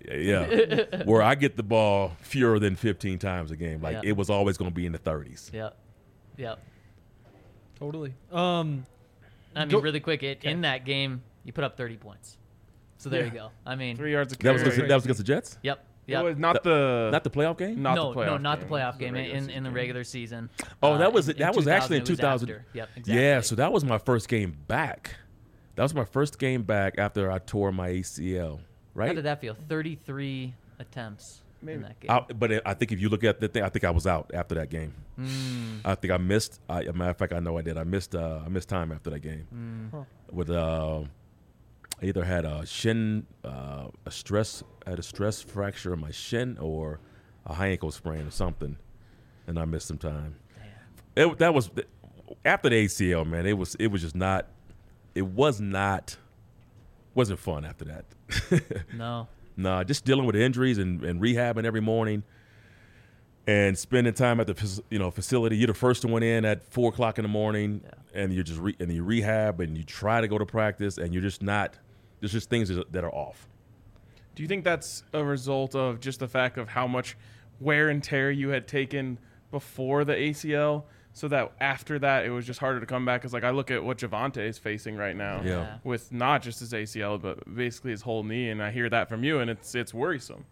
yeah, where I get the ball fewer than fifteen times a game. Like Yeah. it was always going to be in the thirties. Yep. Yep. Totally. Um, I mean, Go- really quick, it, in that game, you put up thirty points. So there you go. I mean, Three yards a That carry. was against, that was against the Jets, yep. It Yep. was not the not the playoff game. not no, the playoff no, not game. the playoff It was game. regular In, season in the game. regular season. Oh, Uh, that was in- that in was actually in it two thousand. after. Yep, exactly. Yeah, so that was my first game back. That was my first game back after I tore my A C L. How Right. did that feel? thirty-three attempts Maybe. in that game. I, but it, I think if you look at the thing, I think I was out after that game. Mm. I think I missed. I, as a matter of fact, I know I did. I missed. Uh, I missed time after that game. Mm. Huh. With uh, I either had a shin, uh, a stress, I had a stress fracture in my shin, or a high ankle sprain or something, and I missed some time. It, that was after the A C L, man. It was. It was just not. It was not. Wasn't fun after that. No. Nah, just dealing with injuries and, and rehabbing every morning, and spending time at the fac- you know facility. You're the first one in at four o'clock in the morning, Yeah. and you just re- and you rehab and you try to go to practice, and you're just not. There's just things that that are off. Do you think that's a result of just the fact of how much wear and tear you had taken before the A C L, so that after that it was just harder to come back? Because like I look at what Javonte is facing right now, Yeah. with not just his A C L but basically his whole knee, and I hear that from you, and it's it's worrisome.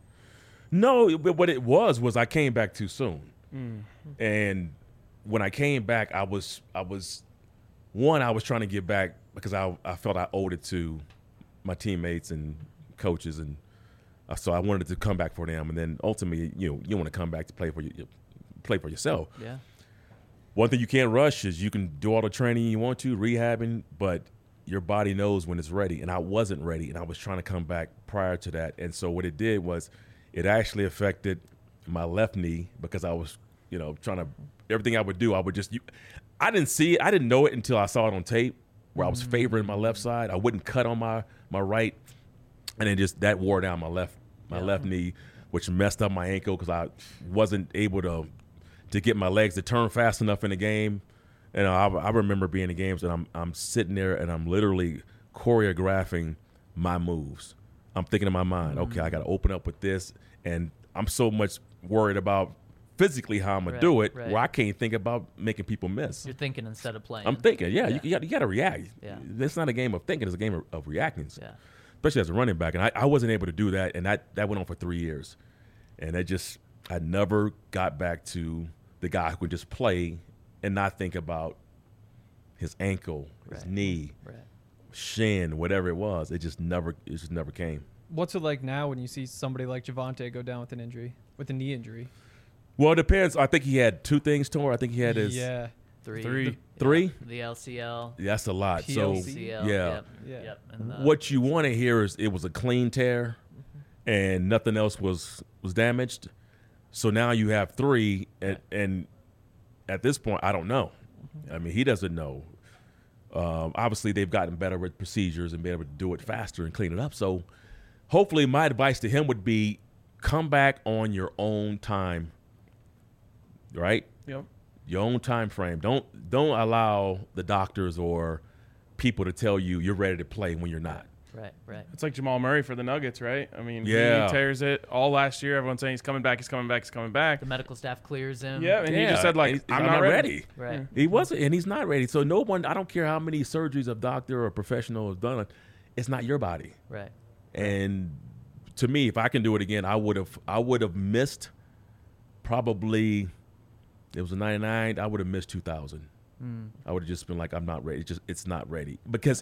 No, but what it was was I came back too soon, Mm. and when I came back, I was I was one I was trying to get back because I I felt I owed it to my teammates and coaches, and uh, so I wanted to come back for them, and then ultimately, you know, you want to come back to play for you, play for yourself. Yeah. One thing you can't rush is you can do all the training you want to, rehabbing, but your body knows when it's ready. And I wasn't ready, and I was trying to come back prior to that. And so what it did was it actually affected my left knee because I was, you know, trying to everything I would do, I would just you, I didn't see it. I didn't know it until I saw it on tape where I was favoring my left side. I wouldn't cut on my my right, and then just that wore down my left my Yeah. left knee, which messed up my ankle because I wasn't able to to get my legs to turn fast enough in the game. And I, I remember being in games and I'm I'm sitting there and I'm literally choreographing my moves. I'm thinking in my mind, okay, I got to open up with this, and I'm so much worried about physically how I'm gonna Right, do it, right. where I can't think about making people miss. You're thinking instead of playing. I'm thinking, yeah, Yeah. you, you got you got to react. Yeah. It's not a game of thinking; it's a game of, of reacting. Yeah. Especially as a running back, and I, I wasn't able to do that, and that that went on for three years, and it just I never got back to the guy who could just play and not think about his ankle, his Right. knee, Right. shin, whatever it was. It just never it just never came. What's it like now when you see somebody like Javonte go down with an injury, with a knee injury? Well, it depends. I think he had two things torn. I think he had his yeah, Three. Three. Yeah. three. The L C L. That's a lot. P So L C. C L. yeah. Yep. Yeah. Yep. And, uh, what you want to hear is it was a clean tear and nothing else was was damaged. So now you have three, and, and at this point, I don't know. I mean, he doesn't know. Um, obviously, they've gotten better with procedures and be able to do it faster and clean it up. So hopefully my advice to him would be come back on your own time, right? Yep. Your own time frame. Don't don't allow the doctors or people to tell you you're ready to play when you're not. Right. Right. It's like Jamal Murray for the Nuggets, right? I mean, Yeah. he tears it all last year. Everyone's saying he's coming back, he's coming back, he's coming back. The medical staff clears him. Yeah, and he Yeah, just said like, he's- I'm, not ready. Right. He wasn't, and he's not ready. So no one, I don't care how many surgeries a doctor or a professional has done, it's not your body. Right. And to me, if I can do it again, I would have, I would have missed probably It was a ninety-nine. I would have missed two thousand. Mm. I would have just been like, I'm not ready. It's just it's not ready because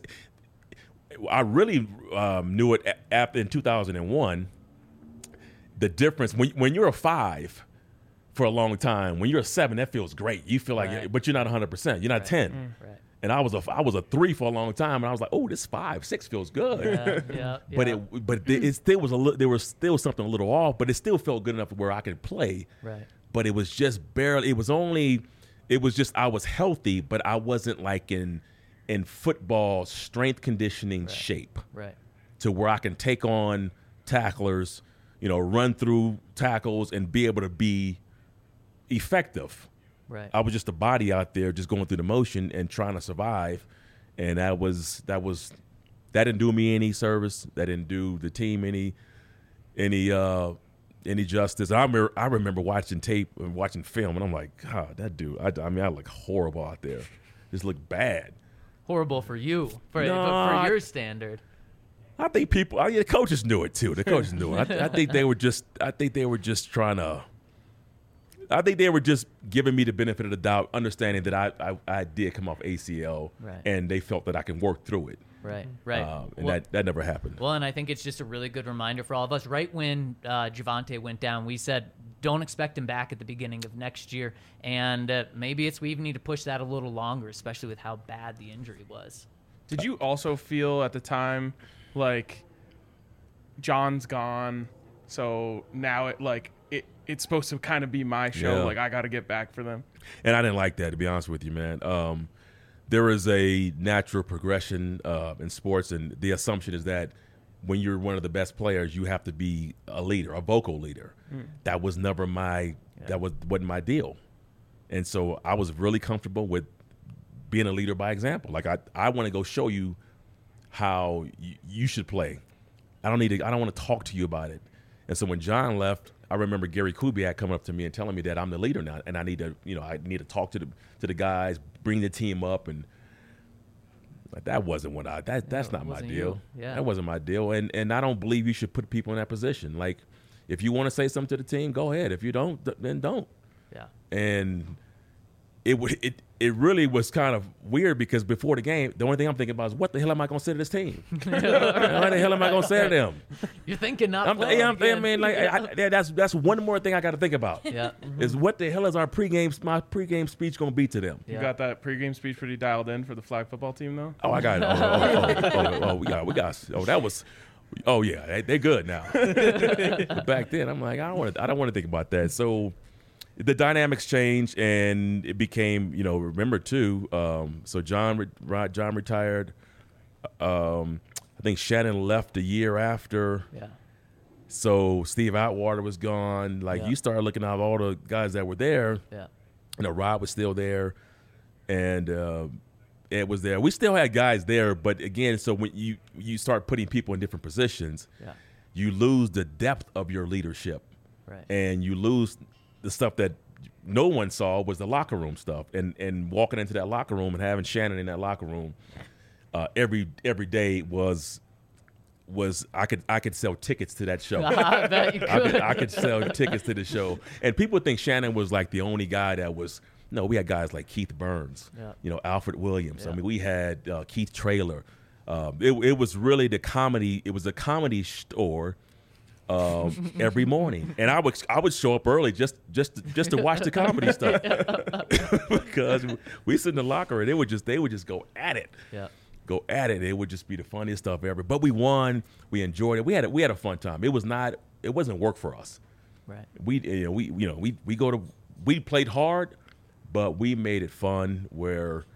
I really um, knew it after in two thousand one. The difference when when you're a five for a long time, when you're a seven, that feels great. You feel like, Right. but you're not one hundred percent. You're not Right. ten. Mm. Right. And I was a I was a three for a long time, and I was like, oh, this five, six feels good. Yeah, yeah, But yeah. it but it still was a li- there was still something a little off, but it still felt good enough where I could play. Right. But it was just barely. It was only. It was just I was healthy, but I wasn't like in in football strength conditioning Right. shape Right. to where I can take on tacklers, you know, run through tackles and be able to be effective. Right. I was just a body out there just going through the motion and trying to survive. And that was that was that didn't do me any service. That didn't do the team any any uh any justice. I remember I remember watching tape and watching film and I'm like, God, that dude, I, I mean I look horrible out there. Just look bad. Horrible for you, for, No, but I- for your standard. I think people I mean, the coaches knew it too. The coaches knew it. I, I think they were just I think they were just trying to I think they were just giving me the benefit of the doubt, understanding that I, I, I did come off A C L, Right. and they felt that I can work through it. Right. Right. Um, and Well- that, that never happened. Well, and I think it's just a really good reminder for all of us. Right when uh, Javonte went down, we said don't expect him back at the beginning of next year, and uh, maybe it's we even need to push that a little longer, especially with how bad the injury was. Did you also feel at the time like John's gone, so now it like it it's supposed to kind of be my show, Yeah. like I got to get back for them? And I didn't like that, to be honest with you, man. Um, there is a natural progression uh, in sports, and the assumption is that when you're one of the best players, you have to be a leader, a vocal leader. That was never my that was wasn't my deal, and so I was really comfortable with being a leader by example. Like I, I want to go show you how y- you should play. I don't need to. I don't want to talk to you about it. And so when John left, I remember Gary Kubiak coming up to me and telling me that I'm the leader now, and I need to, you know, I need to talk to the to the guys, bring the team up, and like, that wasn't what I. That that's No, it not my wasn't deal. you. Yeah. That wasn't my deal, and and I don't believe you should put people in that position. Like, if you want to say something to the team, go ahead. If you don't, th- then don't. Yeah. And it would it it really was kind of weird because before the game, the only thing I'm thinking about is what the hell am I going to say to this team? What the hell am I going to say to them? You're thinking not I'm, playing yeah, I'm, I again. mean, like I, I, that's that's one more thing I got to think about. Yeah. Is what the hell is our pregame my pregame speech going to be to them? Yeah. You got that pregame speech pretty dialed in for the flag football team, though? Oh, I got it. Oh, oh, oh, oh, oh, we got we got. Oh, that was. Oh yeah, they, they're good now. But back then, I'm like, I don't want to. I don't want to think about that. So the dynamics changed, and it became, you know, remember too. Um, so John, re- John retired. Um, I think Shannon left a year after. Yeah. So Steve Atwater was gone. Like Yeah. you started looking at all the guys that were there. Yeah. You know, Rob was still there, and uh, Ed was there. We still had guys there, but again, so when you you start putting people in different positions, Yeah. you lose the depth of your leadership, Right. and you lose the stuff that no one saw was the locker room stuff, and and walking into that locker room and having Shannon in that locker room uh, every every day was was I could I could sell tickets to that show. I bet you I could. could, I could sell tickets to the show. And people think Shannon was like the only guy that was, no, we had guys like Keith Burns, Yeah. you know, Alfred Williams. Yeah. I mean, we had uh, Keith Traylor. Um, it, it was really the comedy. It was a comedy store um, every morning. And I would I would show up early just just just to watch the comedy stuff because we sit in the locker and they would just they would just go at it. Yeah. Go at it. It would just be the funniest stuff ever. But we won. We enjoyed it. We had a, we had a fun time. It was not. It wasn't work for us. Right. We you know, we you know we we go to we played hard, but we made it fun where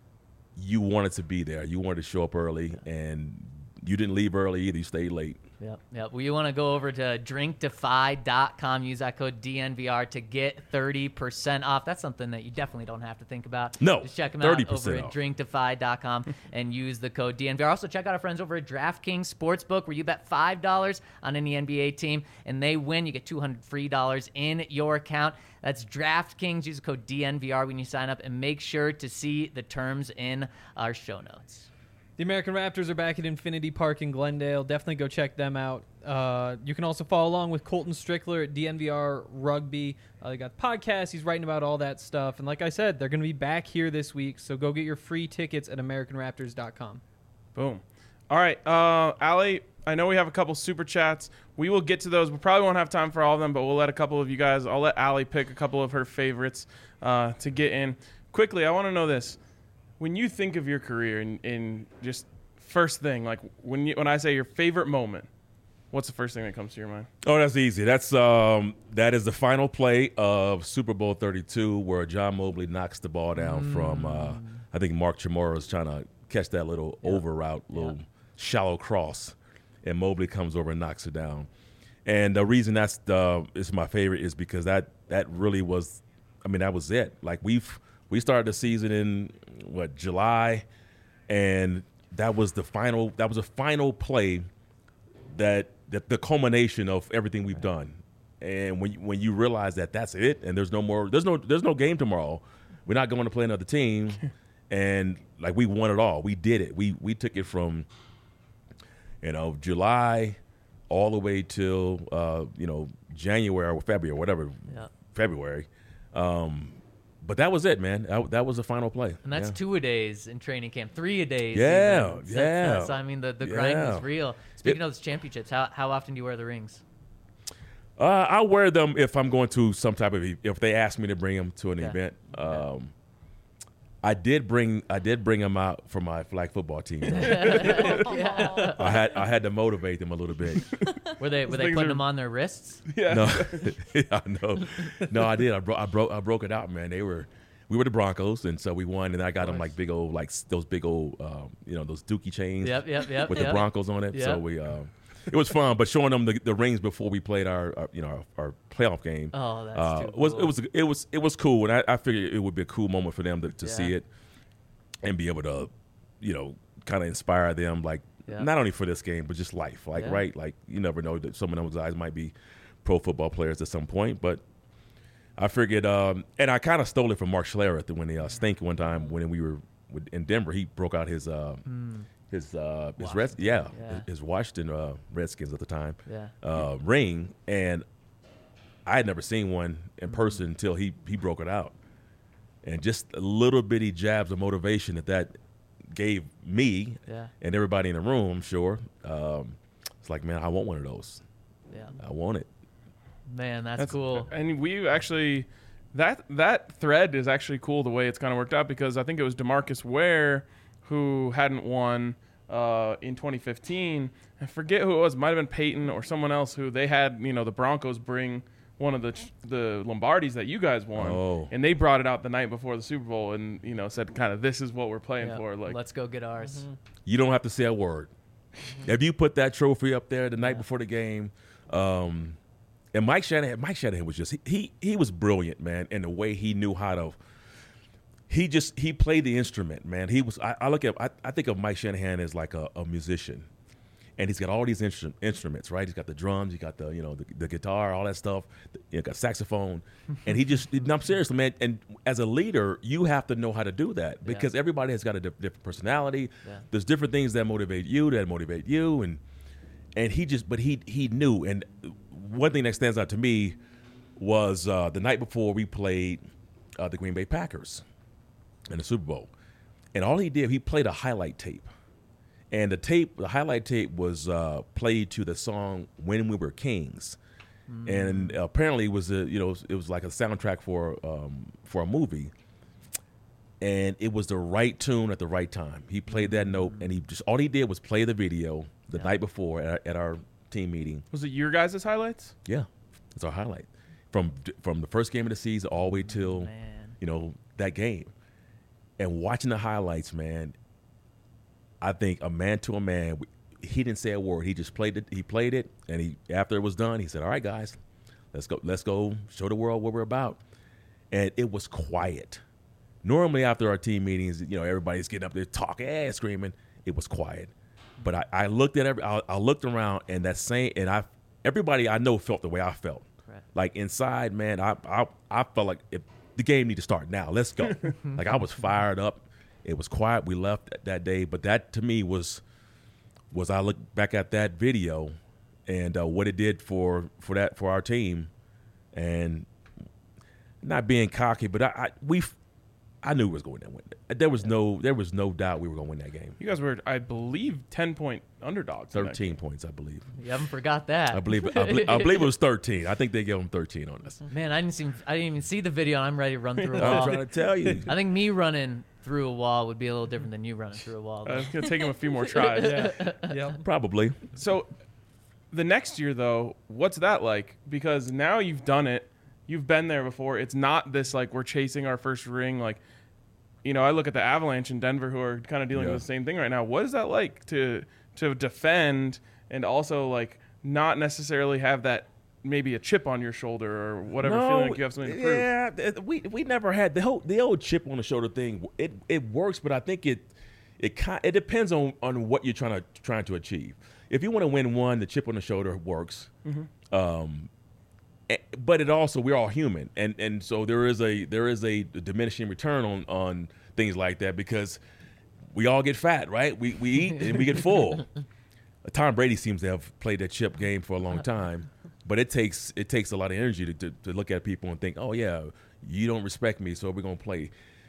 you wanted to be there. You wanted to show up early, and you didn't leave early either. You stayed late. Yep, yep. Well, you want to go over to drink defy dot com, use that code D N V R to get thirty percent off. That's something that you definitely don't have to think about. No, Just check them thirty out percent over at off. drink defy dot com and use the code D N V R. Also, check out our friends over at DraftKings Sportsbook, where you bet five dollars on any N B A team, and they win. You get two hundred free dollars in your account. That's DraftKings. Use the code D N V R when you sign up, and make sure to see the terms in our show notes. The American Raptors are back at Infinity Park in Glendale. Definitely go check them out. Uh, you can also follow along with Colton Strickler at D N V R Rugby. Uh, they got podcasts. He's writing about all that stuff. And like I said, they're going to be back here this week. So go get your free tickets at American Raptors dot com. Boom. All right, uh, Allie, I know we have a couple super chats. We will get to those. We probably won't have time for all of them, but we'll let a couple of you guys, I'll let Allie pick a couple of her favorites uh, to get in. Quickly, I want to know this. When you think of your career in, in just first thing, like when you, when I say your favorite moment, what's the first thing that comes to your mind? Oh, that's easy. That's um, that is the final play of Super Bowl thirty-two, where John Mobley knocks the ball down mm. from. Uh, I think Mark Chamorro is trying to catch that little yeah. over route, little yeah. shallow cross, and Mobley comes over and knocks it down. And the reason that's the is my favorite is because that that really was, I mean, that was it. Like we've we started the season in what July, and that was the final. That was a final play. That, that the culmination of everything we've done, and when you, when you realize that that's it, and there's no more, there's no there's no game tomorrow. We're not going to play another team, and like we won it all. We did it. We we took it from, you know, July all the way till uh, you know January or February or whatever, yeah. February. Um, But that was it, man. That, that was the final play. And that's yeah. two a days in training camp, three a days. Yeah, even. yeah. That's, that's, I mean, the, the grind yeah. was real. Speaking it, of those championships, how how often do you wear the rings? Uh, I wear them if I'm going to some type of if they ask me to bring them to an yeah. event. Um, yeah. I did bring I did bring them out for my flag football team. yeah. I had I had to motivate them a little bit. Were they were they putting are... them on their wrists? Yeah. No, yeah, no, no. I did. I broke I broke I broke it out, man. They were. We were the Broncos, and so we won, and I got them like big old, like those big old, um, you know, those Dookie chains yep, yep, yep, with yep. the Broncos on it. Yep. So we, uh, it was fun, but showing them the, the rings before we played our, our you know, our, our playoff game. Oh, that's uh, too cool. was it was it was it was cool, and I, I figured it would be a cool moment for them to, to yeah. see it and be able to, you know, kind of inspire them, like yeah. not only for this game but just life, like yeah. right, like you never know that some of those guys might be pro football players at some point, but. I figured, um, and I kind of stole it from Mark Schlereth when the uh, Stink one time when we were in Denver. He broke out his uh, mm. his uh, his Red, yeah, yeah, his Washington uh, Redskins at the time yeah. uh, ring, and I had never seen one in person mm. until he he broke it out, and just a little bitty jabs of motivation that that gave me yeah. and everybody in the room. I'm sure um, it's like, man, I want one of those. Yeah, I want it. Man, that's, that's cool. And we actually, that that thread is actually cool the way it's kind of worked out because I think it was DeMarcus Ware who hadn't won uh, in twenty fifteen. I forget who it was. It might have been Peyton or someone else who they had, you know, the Broncos bring one of the the Lombardis that you guys won. Oh. And they brought it out the night before the Super Bowl and, you know, said kind of this is what we're playing yeah. for. Like, let's go get ours. Mm-hmm. You don't have to say a word. If you put that trophy up there the night yeah. before the game, um, and Mike Shanahan, Mike Shanahan was just he, he he was brilliant, man, in the way he knew how to. He just he played the instrument, man. He was. I, I look at. I, I think of Mike Shanahan as like a, a musician, and he's got all these instru- instruments, right? He's got the drums, he got the you know the, the guitar, all that stuff. He got saxophone, and he just. No, I'm serious, man. And as a leader, you have to know how to do that because yeah. everybody has got a di- different personality. Yeah. There's different things that motivate you, that motivate you, and and he just. But he he knew and. One thing that stands out to me was uh, the night before we played uh, the Green Bay Packers in the Super Bowl. And all he did, he played a highlight tape. And the tape, the highlight tape was uh, played to the song When We Were Kings. Mm. And apparently it was, a, you know, it was like a soundtrack for, um, for a movie. And it was the right tune at the right time. He played that note, and he just all he did was play the video the yeah. night before at, at our team meeting. Was it your guys' highlights? Yeah, it's our highlight from from the first game of the season all the way till man. you know that game. And watching the highlights, man, I think a man to a man, he didn't say a word. He just played it. He played it, and he after it was done, he said, "All right, guys, let's go. Let's go show the world what we're about." And it was quiet. Normally, after our team meetings, you know, everybody's getting up there talking, and screaming. It was quiet. But I, I looked at every, I, I looked around, and that same, and I, everybody I know felt the way I felt. Correct. Like inside, man, I, I, I felt like if the game need to start now. Let's go. Like I was fired up, It was quiet. We left that, that day, but that to me was was I look back at that video and uh, what it did for for that for our team, and not being cocky, but I, I we I knew we was going to win. There was no there was no doubt we were going to win that game. You guys were, I believe, ten point underdogs. in that Thirteen game. points, I believe. You haven't forgot that. I believe I believe, I believe it was thirteen. I think they gave them thirteen on us. Man, I didn't seem, I didn't even see the video, and I'm ready to run through a I'm wall. trying to tell you. I think me running through a wall would be a little different than you running through a wall. Uh, it's gonna take him a few more tries. Yeah. Yep. Probably. So, the next year though, what's that like? Because now you've done it, you've been there before. It's not this like we're chasing our first ring. Like, you know, I look at the Avalanche in Denver, who are kind of dealing Yeah. with the same thing right now. What is that like to to defend and also like not necessarily have that maybe a chip on your shoulder or whatever, feeling like you have something to prove? Yeah, th- we we never had the whole the old chip on the shoulder thing. It it works, but I think it it ki- it depends on, on what you're trying to trying to achieve. If you want to win one, the chip on the shoulder works. Mm-hmm. Um, eh, but it also we're all human, and and so there is a there is a diminishing return on on things like that because we all get fat, right? We we eat and we get full. Tom Brady seems to have played that chip game for a long time, but it takes it takes a lot of energy to, to, to look at people and think, oh yeah, you don't respect me, so we're gonna play.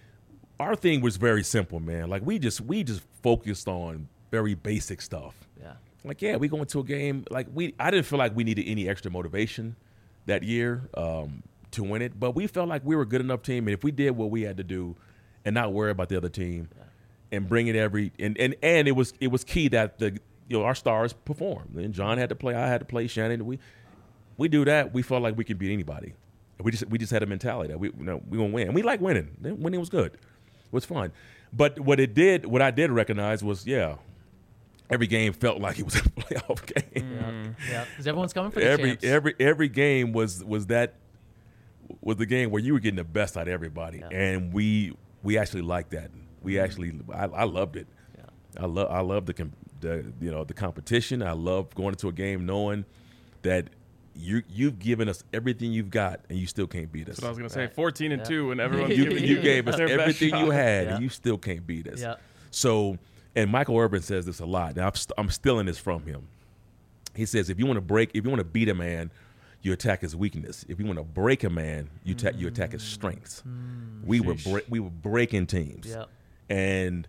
Our thing was very simple, man. Like we just we just focused on very basic stuff. Yeah. Like yeah, we go into a game like we. I didn't feel like we needed any extra motivation that year um, to win it, but we felt like we were a good enough team, and if we did what we had to do, and not worry about the other team, yeah. and bring it every and, and and it was it was key that the you know our stars performed. And John had to play, I had to play, Shannon. We we do that. We felt like we could beat anybody. We just we just had a mentality that we you know, we gonna win, and we like winning. Winning was good, it was fun. But what it did, what I did recognize was yeah. Every game felt like it was a playoff game. Mm. Yeah, because everyone's coming for the every champs. every every game was was that was the game where you were getting the best out of everybody, yeah. and we we actually liked that. We actually I, I loved it. Yeah. I love I love the, the you know the competition. I love going into a game knowing that you you've given us everything you've got, and you still can't beat us. That's what I was gonna Right. say. Fourteen and Yeah. two, and everyone's you, giving you gave us their best everything you shot. had, Yeah. and you still can't beat us. Yeah. So, and Michael Irvin says this a lot. Now, I'm, st- I'm stealing this from him. He says, if you want to break, if you want to beat a man, you attack his weakness. If you want to break a man, you attack, you attack his strengths. Mm. We were Sheesh. bre- we were breaking teams, Yeah. and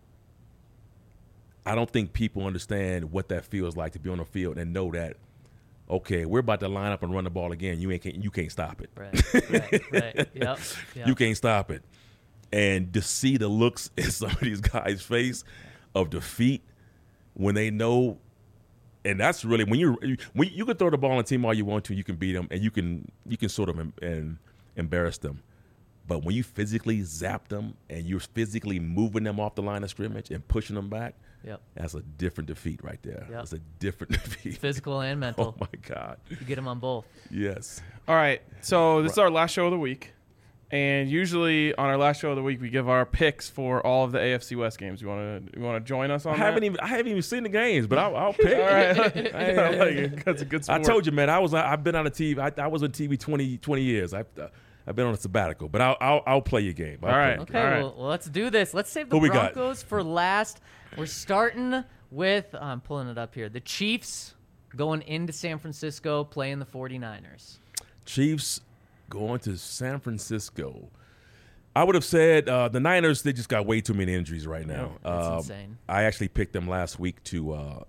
I don't think people understand what that feels like to be on the field and know that. Okay, we're about to line up and run the ball again. You ain't can't, you can't stop it. Right. Right. Right. Yep. Yep. You can't stop it. And to see the looks in some of these guys' face of defeat when they know, and that's really when you when you can throw the ball on a team all you want to, you can beat them, and you can you can sort of em, and embarrass them. But when you physically zap them and you're physically moving them off the line of scrimmage and pushing them back, Yep. that's a different defeat right there. Yep. That's a different defeat. Physical and mental. Oh my God. You get them on both. Yes. All right, so this is our last show of the week, and usually on our last show of the week we give our picks for all of the A F C West games. You want to you want to join us on I that? haven't even I haven't even seen the games, but I'll, I'll pick. All right, I like it. That's a good I sport. told you, man. I was I've been on a T V. I, I was on T V twenty, twenty years. I've uh, I've been on a sabbatical, but I'll I'll, I'll play your game. I'll All play right. your Okay, game. All right. well, well, let's do this. Let's save the Who we got? Broncos for last. We're starting with, I'm pulling it up here, the Chiefs going into San Francisco playing the forty-niners. Chiefs going to San Francisco. I would have said uh, the Niners. They just got way too many injuries right now. That's Um, insane. I actually picked them last week to uh,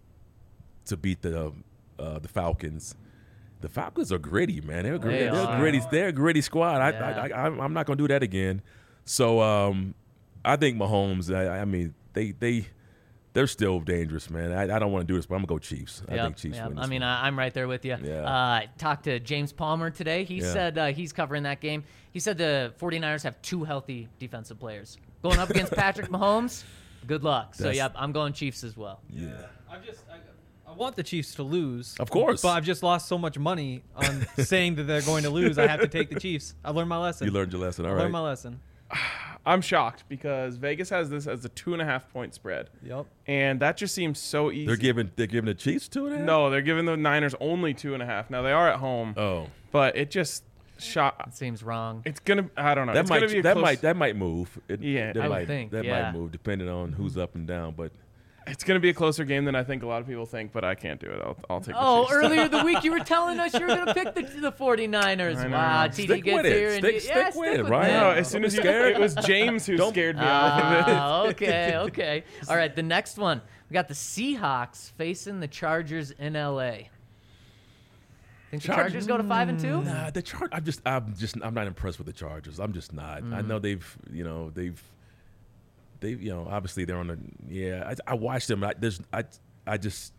to beat the uh, the Falcons. The Falcons are gritty, man. They're gritty. They They are are. gritty. They're a gritty squad. I, Yeah. I, I, I'm- I'm not going to do that again. So um, I think Mahomes. I, I mean, they they they're still dangerous, man. I, I don't want to do this, but I'm gonna go Chiefs. I Yep, think Chiefs yep. win. I This mean, one. I, I'm right there with you. Yeah. Uh, talked to James Palmer today. He Yeah. said uh, he's covering that game. He said the forty-niners have two healthy defensive players. Going up against Patrick Mahomes, good luck. So, That's- yeah, I'm going Chiefs as well. yeah. I've just I, I want the Chiefs to lose. Of course. But I've just lost so much money on saying that they're going to lose. I have to take the Chiefs. I learned my lesson. You learned your lesson. All I right. learned my lesson. I'm shocked because Vegas has this as a two and a half point spread, Yep. and that just seems so easy. They're giving they're giving the Chiefs two and a half. no, they're giving the Niners only two and a half. Now they are at home, Oh. but it just shot. It seems wrong. It's gonna. I don't know. That it's might gonna be a that close, might that might move. It, Yeah, that I would might, think, that yeah. might move depending on who's up and down. But It's gonna be a closer game than I think a lot of people think, but I can't do it. I'll, I'll take. Oh, the Chiefs. earlier the week you were telling us you were going to pick the, the 49ers. I know. Wow, T D Stick gets with it. here. And Stick- you, stick yeah, with stick it, with right? it. No, as soon as you, scared. it was James who Don't- scared me. off of it. Ah, okay, okay. All right, the next one. We got the Seahawks facing the Chargers in L A. Think the Chargers- Chargers go to five and two? Nah, the Char- I'm just, I'm just, I'm not impressed with the Chargers. I'm just not. Mm-hmm. I know they've, you know, they've, they've, you know, obviously they're on the. Yeah, I, I watched them. I, there's, I, I just.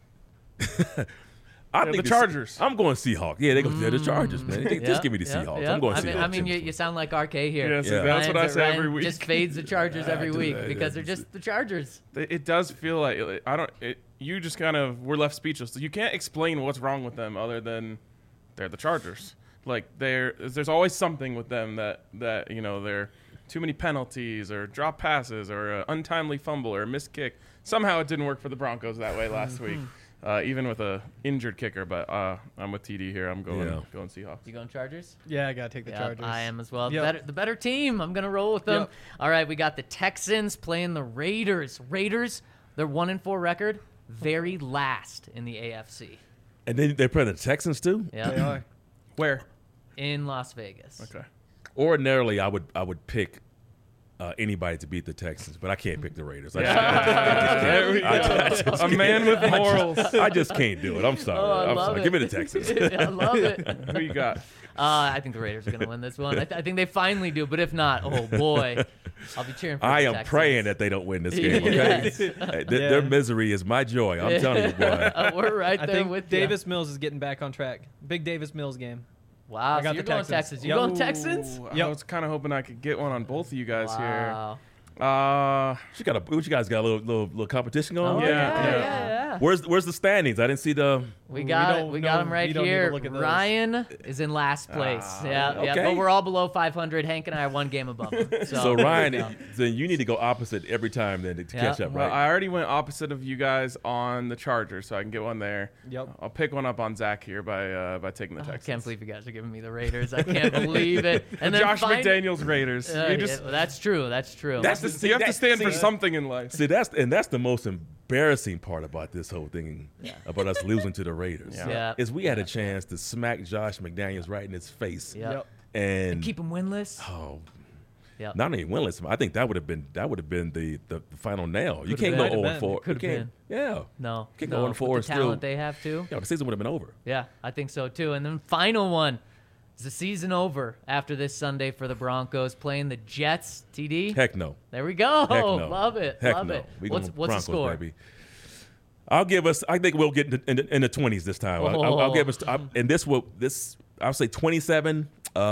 I Yeah, think the Chargers. I'm going Seahawks. Yeah, they go. They're the Chargers, man. They- Yeah, Just give me the yeah, Seahawks. yeah. I'm going I Seahawks. mean, I mean you, you sound like R K here. Yeah, so Yeah. that's what I Ryan's- say Ryan every week. Just fades the Chargers I every do week that, because yeah, they're just the Chargers. It it does feel like I don't. It, you just kind of were left speechless. You can't explain what's wrong with them other than they're the Chargers. Like they're there's always something with them that that you know they're too many penalties or drop passes or an untimely fumble or a missed kick. Somehow it didn't work for the Broncos that way last week, uh, even with a injured kicker. But uh, I'm with T D here. I'm going Yeah. going Seahawks. You going Chargers? Yeah, I gotta take the Yeah, Chargers. I am as well. The Yep. better, the better team. I'm gonna roll with them. Yep. All right, we got the Texans playing the Raiders. Raiders, their one and four record, very last in the A F C. And then they play the Texans too. They Yeah, are. Where? in Las Vegas. Okay. Ordinarily, I would, I would pick. Uh, anybody to beat the Texans, but I can't pick the Raiders. I, There we go. I just A man with morals. I just can't do it. I'm sorry. Oh, I I'm love sorry. it. Give me the Texans. I love it. Who you got? Uh, I think the Raiders are going to win this one. I, th- I think they finally do, but if not, oh boy, I'll be cheering for I the am Texans. praying that they don't win this game. Okay, Yes. Hey, th- Yeah. their misery is my joy. I'm telling you, boy. Uh, we're right I there think with ya. Davis Mills is getting back on track. Big Davis Mills game. Wow, I so got you're the going Texans. Texans. You Yep. going Texans? Ooh, I Yep. was kind of hoping I could get one on both of you guys Wow. here. Uh, You got a, what you guys got a little little, little competition Oh, going? yeah, Yeah, yeah, yeah. yeah. Where's where's the standings? I didn't see the. We We got it. don't We got know- him right we don't need to here. look at those. Ryan is in last place. Ah, yeah, yeah. okay. But we're all below five hundred. Hank and I are one game above him. So, So there Ryan, we go. then you need to go opposite every time then to Yeah. catch up, well, right? I already went opposite of you guys on the Chargers, so I can get one there. Yep. I'll pick one up on Zach here by uh, by taking the Oh, I Texans. can't believe you guys are giving me the Raiders. I can't believe it. And then Josh find- McDaniels Raiders. Uh, you just yeah, well, that's true. That's true. That's you the- have to that- stand for see- something in life. See, that's and that's the most embarrassing part about this whole thing about us losing to the Raiders. Yeah. Yeah. Is we had a chance to smack Josh McDaniels right in his face, yeah. Yep. and Keep them winless. oh, Yeah. not only winless. I think that would have been that would have been the, the, the final nail. You Could've can't been. go Could've zero and four. been. You Could've can't. Yeah. No. Can't no. go on four With the and still- talent they have too. Yeah, the season would have been over. Yeah, I think so too. And then final one. Is the season over after this Sunday for the Broncos playing the Jets? T D. Heck no. There we go. Heck no. Love it. Heck Love no. it. We What's going what's Broncos, the score? Baby. I'll give us. I think we'll get in the, in the, in the twenties this time. I'll, I'll, I'll give us. I, and this will this. I'll say twenty-seven.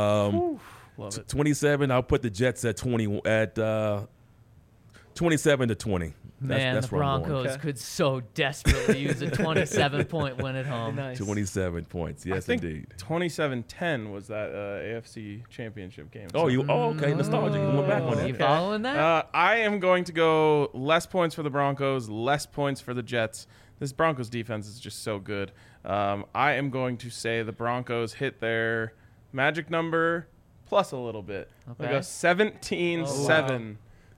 Um, Love it. twenty-seven. I'll put the Jets at twenty at uh, twenty-seven to twenty. That's, Man, that's the where I'm Broncos Okay. could so desperately use a twenty-seven point win at home. Nice. going. twenty-seven points. Yes, I think indeed. twenty-seven ten was that uh, A F C Championship game. Oh, So, you. Oh, okay. Nostalgic. You went back on You that. following that? Uh, I am going to go less points for the Broncos, less points for the Jets. This Broncos defense is just so good. Um, I am going to say the Broncos hit their magic number plus a little bit. They Okay. go seventeen seven.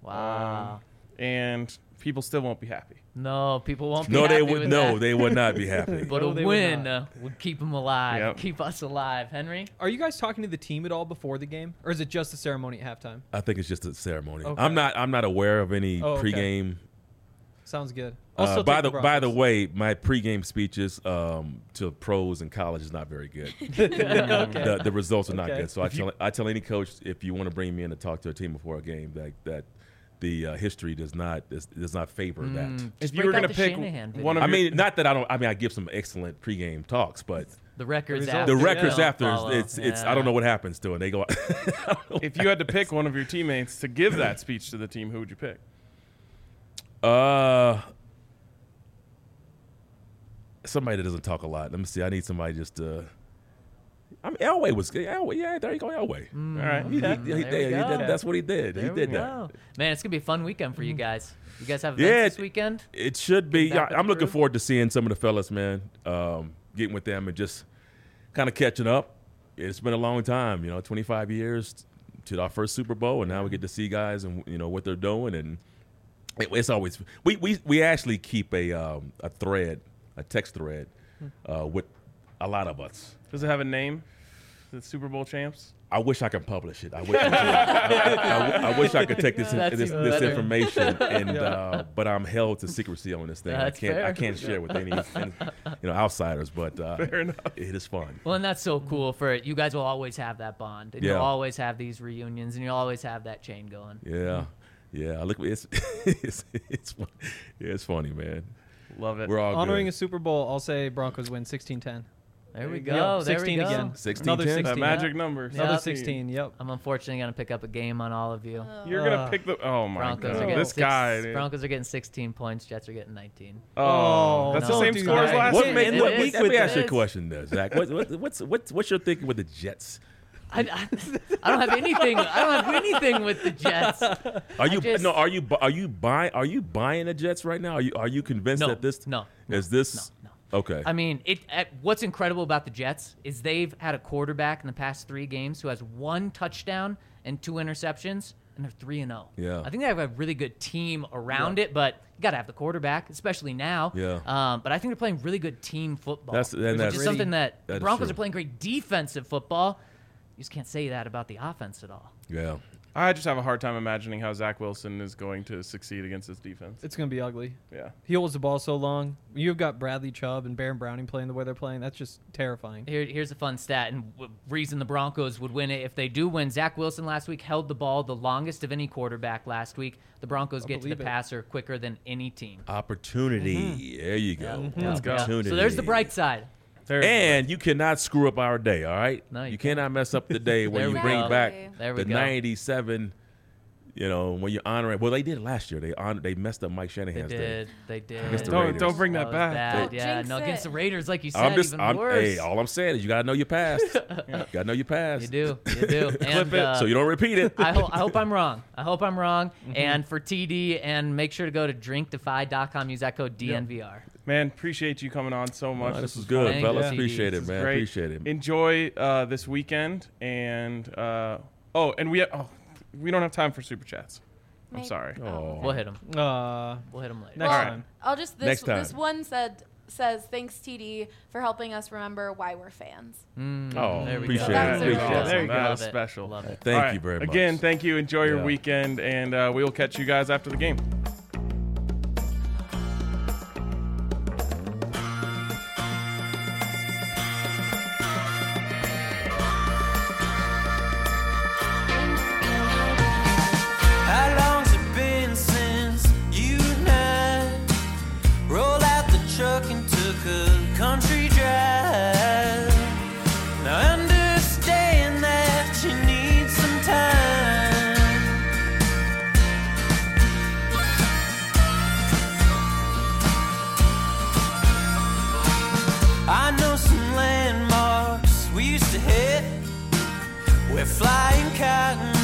wow. Um, and people still won't be happy. no, people won't be No, happy they would. with No, that. they would not be happy. But No, a they would win not. uh, would keep them alive, Yep. keep us alive. Henry? Are you guys talking to the team at all before the game, or is it just a ceremony at halftime? I think it's just a ceremony. Okay. I'm not. I'm not aware of any Oh, okay. pregame. Sounds good. Uh, Also, by the by the way, my pregame speeches um, to pros in college is not very good. the, the results are not Okay. good. So I tell I tell any coach, if you want to bring me in to talk to a team before a game, that that the uh, history does not does, does not favor that. Mm, If just you break were out going to the pick Shanahan video. one of I your, mean, not that I don't. I mean, I give some excellent pregame talks, but the records The after. the records don't after, follow. it's it's. Yeah. I don't know what happens to it. They go. if you had to pick one of your teammates to give that speech to the team, who would you pick? uh. Somebody that doesn't talk a lot. Let me see. I need somebody just to. I mean, Elway was good. Elway, yeah, there you go, Elway. Mm, All right. He- he- okay. he- There we he go. did- that's what he did. There he we did that. go. Man, it's gonna be a fun weekend for you guys. You guys have Yeah, events this it- weekend? It should be. Getting back Yeah, with I'm the looking crew? forward forward to seeing some of the fellas, man. Um, getting with them and just kind of catching up. it's been a long time, you know, twenty-five years to our first Super Bowl, and now we get to see guys and you know what they're doing, and it, it's always we we we actually keep a um, a thread, a text thread, uh, with a lot of us. Does it have a name? The Super Bowl champs? I wish I could publish it. I wish I, could. I, I, I wish I could take this That's this, even this better. information, and uh, but I'm held to secrecy on this thing. That's I can't fair. I can't share with any, any you know outsiders. But uh, Fair enough. it is fun. Well, and that's so cool for it. You guys will always have that bond, and Yeah. you'll always have these reunions, and you'll always have that chain going. Yeah, yeah. I look, it's it's it's fun. Yeah, it's funny, man. Love it. We're all Honoring a good. Super Bowl, I'll say Broncos win sixteen ten. There we you go. go. There we sixteen go. again. sixteen Another ten? that sixteen. magic number. Another Yeah. sixteen. Yep. I'm unfortunately going to pick up a game on all of you. You're going to Uh, pick the. Oh, my Broncos are God. getting This six, guy. dude. Broncos are getting sixteen points. Jets are getting nineteen. Oh, that's no. the same Don't score do as that. last What year. make, It what, is. let me ask you a It is. question, there, Zach. What, what, what's what's what's your thinking with the Jets? I, I, I don't have anything. I don't have anything with the Jets. Are you just- no? Are you bu- are you buying? Are you buying the Jets right now? Are you are you convinced No, that this no, no, is this no, no. okay? I mean, it. Uh, what's incredible about the Jets is they've had a quarterback in the past three games who has one touchdown and two interceptions, and they're three and zero. Yeah. I think they have a really good team around it, but you got to have the quarterback, especially now. Yeah. Um, but I think they're playing really good team football. That's- and which that's- is something that That the is Broncos true. are playing great defensive football. You just can't say that about the offense at all. yeah. I just have a hard time imagining how Zach Wilson is going to succeed against this defense. It's going to be ugly. Yeah. He holds the ball so long. You've got Bradley Chubb and Baron Browning playing the way they're playing. That's just terrifying. Here, here's a fun stat, and w- reason the Broncos would win it if they do win. Zach Wilson last week held the ball the longest of any quarterback last week. The Broncos I get to the believe it. passer quicker than any team. Opportunity. There you go. Yeah. Opportunity. So there's the bright side. There's And you cannot screw up our day. All right. No, you you cannot mess up the day when There you we bring go. back There we the go. ninety-seven. You know when you honor it. Well, they did it last year. They honored. They messed up Mike They Shanahan's day. did. They did. Against the Don't- Raiders. don't bring that was back. bad. Don't Yeah, jinx no, against it. the Raiders, like you said, I'm just. even I'm, worse. hey, all I'm saying is you gotta know your past. You gotta know your past. You do. You do. and, it uh, So you don't repeat it. I, ho- I hope I'm wrong. I hope I'm wrong. Mm-hmm. And for T D, and make sure to go to drink defy dot com. Use that code D N V R. Man, appreciate you coming on so much. Oh, this is was good, Thank fellas. you. Appreciate This it, is man. great. Appreciate it. Enjoy uh, this weekend, and uh, oh, and we oh, we don't have time for super chats. I'm Maybe- sorry. Oh. We'll hit them. Uh, We'll hit them later. next Well, time. I'll just this Next time. this one said says thanks T D for helping us remember why we're fans. Mm, Oh, there we appreciate go. it. That's Appreciate awesome. it. There you go. Love That's it. special. Love it. Thank All right. you very much. Again, thank you. Enjoy your Yeah. weekend, and uh, we will catch you guys after the game. How long's it been since you and I rolled out the truck and took a country drive? Now I understand that you need some time. I know some landmarks we used to hit where flying cotton